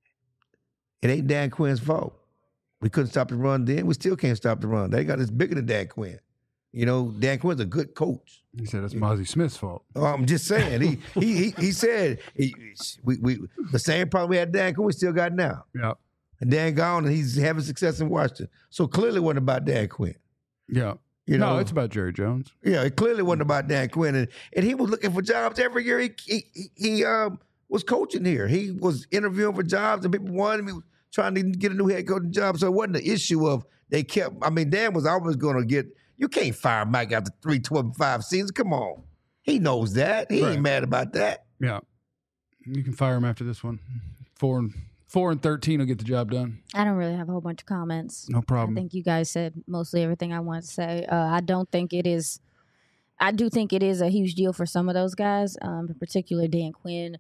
it ain't Dan Quinn's fault. We couldn't stop the run then. We still can't stop the run. They got us bigger than Dan Quinn. You know, Dan Quinn's a good coach. He said it's Mozzie Smith's fault. Oh, I'm just saying. He he he, he said he, we we the same problem we had Dan Quinn, we still got now. Yeah. And Dan gone, and he's having success in Washington. So clearly it wasn't about Dan Quinn. Yeah. You know, no, it's about Jerry Jones. Yeah, it clearly wasn't about Dan Quinn. And, and he was looking for jobs every year. He he, he um, was coaching here. He was interviewing for jobs, and people wanted him. He was trying to get a new head coaching job. So it wasn't the issue of they kept, I mean, Dan was always going to get, you can't fire Mike after three, twelve, and five seasons. Come on. He knows that. He Right. ain't mad about that. Yeah. You can fire him after this one. Four and four and thirteen will get the job done. I don't really have a whole bunch of comments. No problem. I think you guys said mostly everything I wanted to say. Uh, I don't think it is. I do think it is a huge deal for some of those guys, um, in particular Dan Quinn.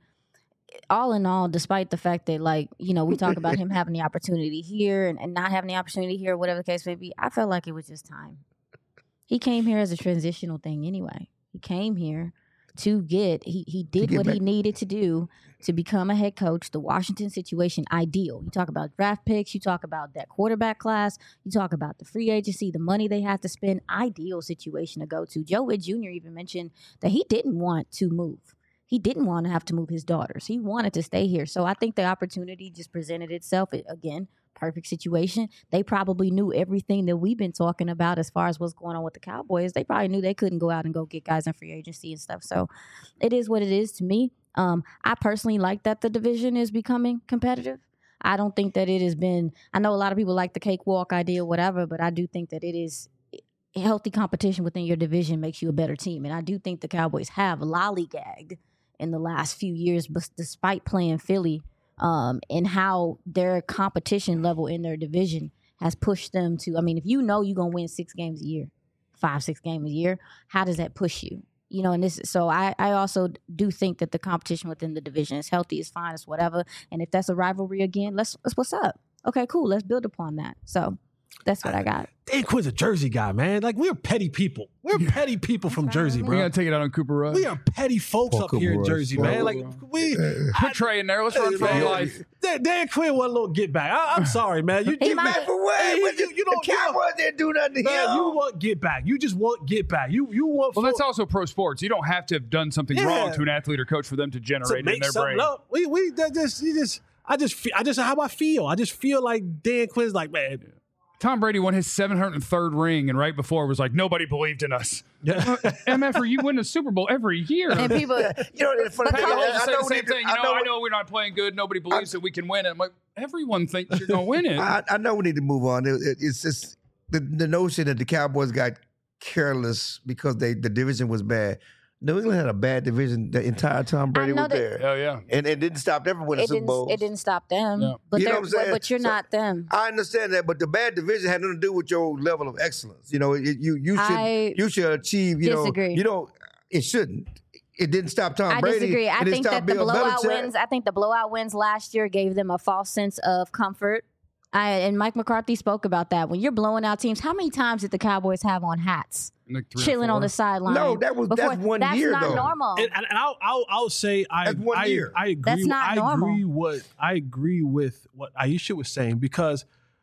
All in all, despite the fact that, like, you know, we talk about him having the opportunity here and, and not having the opportunity here, whatever the case may be, I felt like it was just time. He came here as a transitional thing anyway. He came here to get, he, he did get what back. he needed to do to become a head coach. The Washington situation, ideal. You talk about draft picks, you talk about that quarterback class, you talk about the free agency, the money they had to spend, ideal situation to go to. Joe Witt Junior even mentioned that he didn't want to move. He didn't want to have to move his daughters. He wanted to stay here. So I think the opportunity just presented itself. It, again, perfect situation. They probably knew everything that we've been talking about as far as what's going on with the Cowboys. They probably knew they couldn't go out and go get guys in free agency and stuff. So it is what it is to me. Um, I personally like that the division is becoming competitive. I don't think that it has been, I know a lot of people like the cakewalk idea, whatever, but I do think that it is healthy competition within your division makes you a better team. And I do think the Cowboys have lollygagged in the last few years, but despite playing Philly, um, and how their competition level in their division has pushed them to, I mean, if you know you're going to win six games a year, five, six games a year, how does that push you? You know, and this, so I, I also do think that the competition within the division is healthy, is fine, is whatever. And if that's a rivalry again, let's, let's what's up? Okay, cool. Let's build upon that. So that's what I got. Dan Quinn's a Jersey guy, man. Like, we're petty people. We're Yeah. petty people from Jersey, We bro. gotta take it out on Cooper Rush. We are petty folks Poor up here in Cooper Rush. Jersey, Poor man. Like, Cooper we. Put Trey in there. Let's run for Man, our life. Dan, Dan Quinn want a little get back. I, I'm sorry, man. You, He you, might- Mad for what? Hey, you- What you- the- you don't- the you don't- Cowboys didn't do nothing to man, him. you want get back. You just want get back. You you want. Well, full- that's also pro sports. You don't have to have done something Yeah. wrong to an athlete or coach for them to to generate it in make their something brain. up. We we that just you just I just feel, I just how I feel. I just feel like Dan Quinn's like, man. Tom Brady won his seven hundred third ring, and right before was like, nobody believed in us. Yeah. M F, you win the Super Bowl every year. And people, You know, the funny But thing Pat is, Mahomes I said know the we same need to- thing. You know, I know we're not playing good. Nobody believes that we can win it. I'm like, everyone thinks you're going to win it. I, I know we need to move on. It, it, it's just the, the notion that the Cowboys got careless because they the division was bad. New England had a bad division the entire time Brady know was that- there. Oh, yeah. And it didn't stop them from winning it Super didn't, Bowls. it didn't stop them. Yeah. But, You know they're- what I'm saying? but you're So- not them. I understand that, but the bad division had nothing to do with your level of excellence. You know, it, you you should I you should achieve. You disagree. know, you know, it shouldn't. It didn't stop Tom I Brady. disagree. I It didn't think stop that the Bill blowout Belichick. wins. I think the blowout wins last year gave them a false sense of comfort. I, and Mike McCarthy spoke about that. When you're blowing out teams, how many times did the Cowboys have on hats, Like three or chilling on four. the sideline? No, that was- that's one that's year, not though. normal. And, and, and I'll, I'll I'll say I That's one I, year. I agree. That's not I normal. agree what I agree with what Aisha was saying because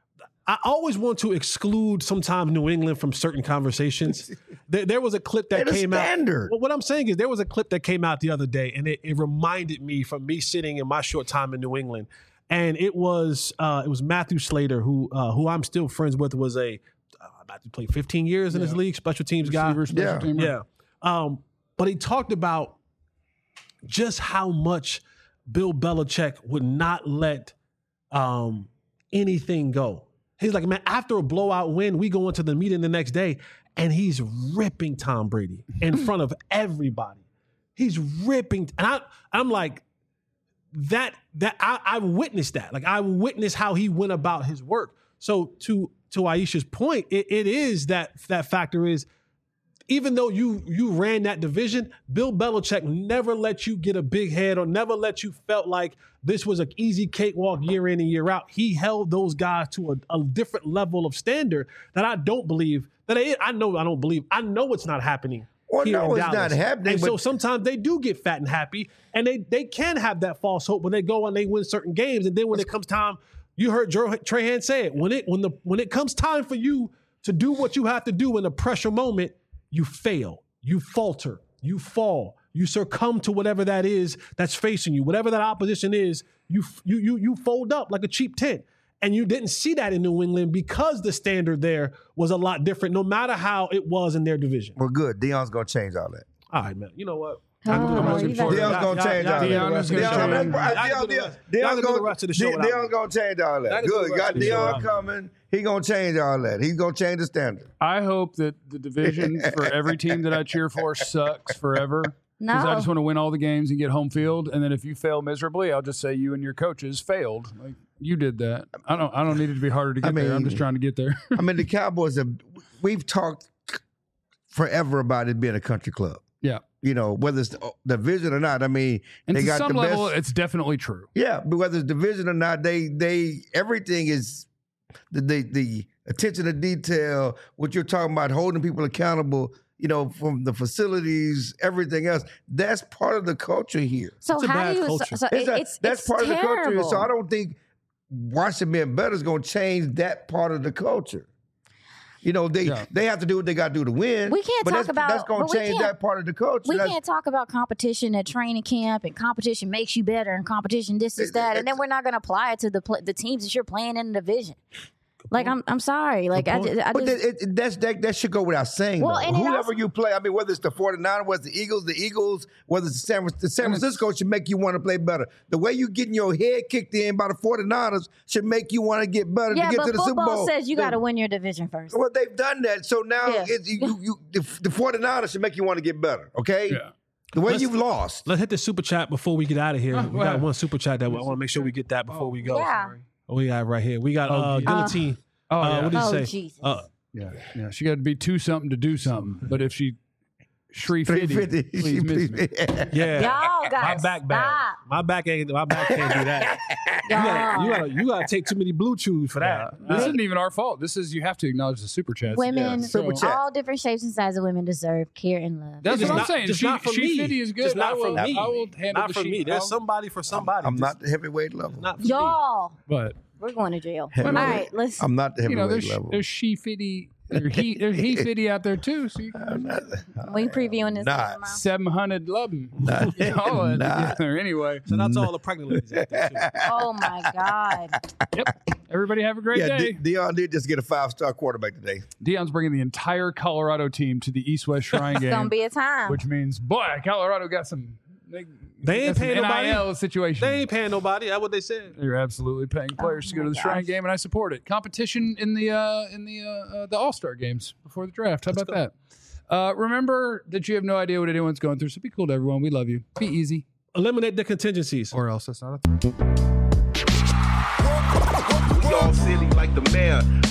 I always want to exclude sometimes New England from certain conversations. there, there was a clip that They're the came out. standard. Well, what I'm saying is there was a clip that came out the other day, and it, it reminded me from me sitting in my short time in New England, and it was uh, it was Matthew Slater who uh, who I'm still friends with was a uh, Matthew played fifteen years in this league, special teams guy. Receiver, special Yeah. teamer. Yeah. Um, but he talked about just how much Bill Belichick would not let um, anything go. He's like, man, after a blowout win, we go into the meeting the next day, and he's ripping Tom Brady in front of everybody. He's ripping. And I, I'm like, that that I, I witnessed that. Like I witnessed how he went about his work. So to to Aisha's point, it, it is that that factor is, even though you you ran that division, Bill Belichick never let you get a big head or never let you felt like this was an easy cakewalk year in and year out. He held those guys to a, a different level of standard that I don't believe that I, I know I don't believe. I know it's not happening. Well, here no, in it's Dallas. not happening. And but so sometimes they do get fat and happy, and they they can have that false hope when they go and they win certain games, and then when it comes time, you heard Joe Trahan say it. When it when the when it comes time for you to do what you have to do in a pressure moment, you fail, you falter, you fall, you succumb to whatever that is that's facing you, whatever that opposition is. You you you you fold up like a cheap tent. And you didn't see that in New England because the standard there was a lot different, no matter how it was in their division. well, good. Deion's gonna change all that. All right, man. You know what? Oh, Y'all you do the better- rest of the Deion's show. gonna Y'all- change y'all all do the that. rest of the Deion's show. gonna Deion's change- gonna- Y'all Deion- do the rest- Deion's y'all do the gonna- rest of the show De- without Deion's me. gonna change all Y'all that. can do the Good. rest Got of the show Deion without me. coming. He gonna change all that. He's gonna change the standard. I hope that the division for every team that I cheer for sucks forever. Because No. I just want to win all the games and get home field. And then if you fail miserably, I'll just say you and your coaches failed. Like you did that. I don't. I don't need it to be harder to get I there. I'm mean- just trying to get there. I mean, the Cowboys have. We've talked forever about it being a country club. Yeah. You know, whether it's the division or not. I mean, And they to got some the level, best. it's definitely true. Yeah, but whether it's division or not, they they everything is the the, the attention to detail. What you're talking about, holding people accountable. You know, from the facilities, everything else. That's part of the culture here. So It's a how bad do you? So, culture. so It's it- a- it's that's it's part of the culture. terrible. So I don't think Washington being better is going to change that part of the culture. You know, they Yeah. they have to do what they got to do to win. We can't but talk that's, about- that's going but to we change can't- that part of the culture. We That's- can't talk about competition at training camp and competition makes you better and competition this, this, It- that, and then it's- we're not going to apply it to the pl- the teams that you're playing in the division. Like I'm, I'm sorry. Like I point. just, I But just that, it, that's, that, that should go without saying. Well, though. and it Whoever also- you play, I mean, whether it's the 49ers, whether it's the Eagles, the Eagles, whether it's the San, the San Francisco should make you want to play better. The way you getting your head kicked in by the 49ers should make you want to get better yeah, to get but to the Super football Bowl. says you The- got to win your division first. Well, they've done that. So now Yeah. it's, you, you, the, the 49ers should make you want to get better, okay? Yeah. The way Let's- you've lost. Let's hit the super chat before we get out of here. Oh, we wow. got one super chat that we, I want to make sure we get that before we go. Yeah. Oh, we got it right here. We got Oh, uh, yeah. Guillotine. Oh, Uh, yeah. what did you Oh say? Jesus! Uh, Yeah, yeah. She got to be two something to do something. But if she Shri three fifty, fifty. please miss me. yeah. Y'all My guys, back bad. stop. My back ain't. My back can't do that. You gotta, you gotta, you gotta take too many blue chews for that. This Uh, isn't even our fault. This is you have to acknowledge the super chats. Women, Yeah, so- Super chat. all different shapes and sizes of women deserve care and love. That's just what I'm not- saying. just She, not for she me. fifty is good. Just not I will, for me. I will handle Not the for she- me. There's I'll- somebody for somebody. I'm Just not the heavyweight level. not for me. Y'all, But we're going to jail. Heavyweight. All right, let's. I'm not the you know, heavyweight there's level. there's she fifty, there's he there's he fifty out there too. So you I'm not, we previewing this. Not. tomorrow. seven hundred love them. Not- All that not. together. Anyway, So that's all the pregnant ladies out there too. Oh my God! yep. Everybody have a great yeah, day. De- Deion did just get a five star quarterback today. Deion's bringing the entire Colorado team to the East West Shrine It's gonna game, be a time. which means boy, Colorado got some. They, They ain't got some paying N I nobody. L situation. They ain't paying nobody. That's what they said. You're absolutely paying players Oh to go to my the Shrine gosh. game, and I support it. Competition in the uh, in the uh, uh, the All Star games before the draft. How about that? Uh, remember that you have no idea what anyone's going through, so be cool to everyone. We love you. Be easy, Eliminate the contingencies. or else that's not a thing. We all silly like the mayor.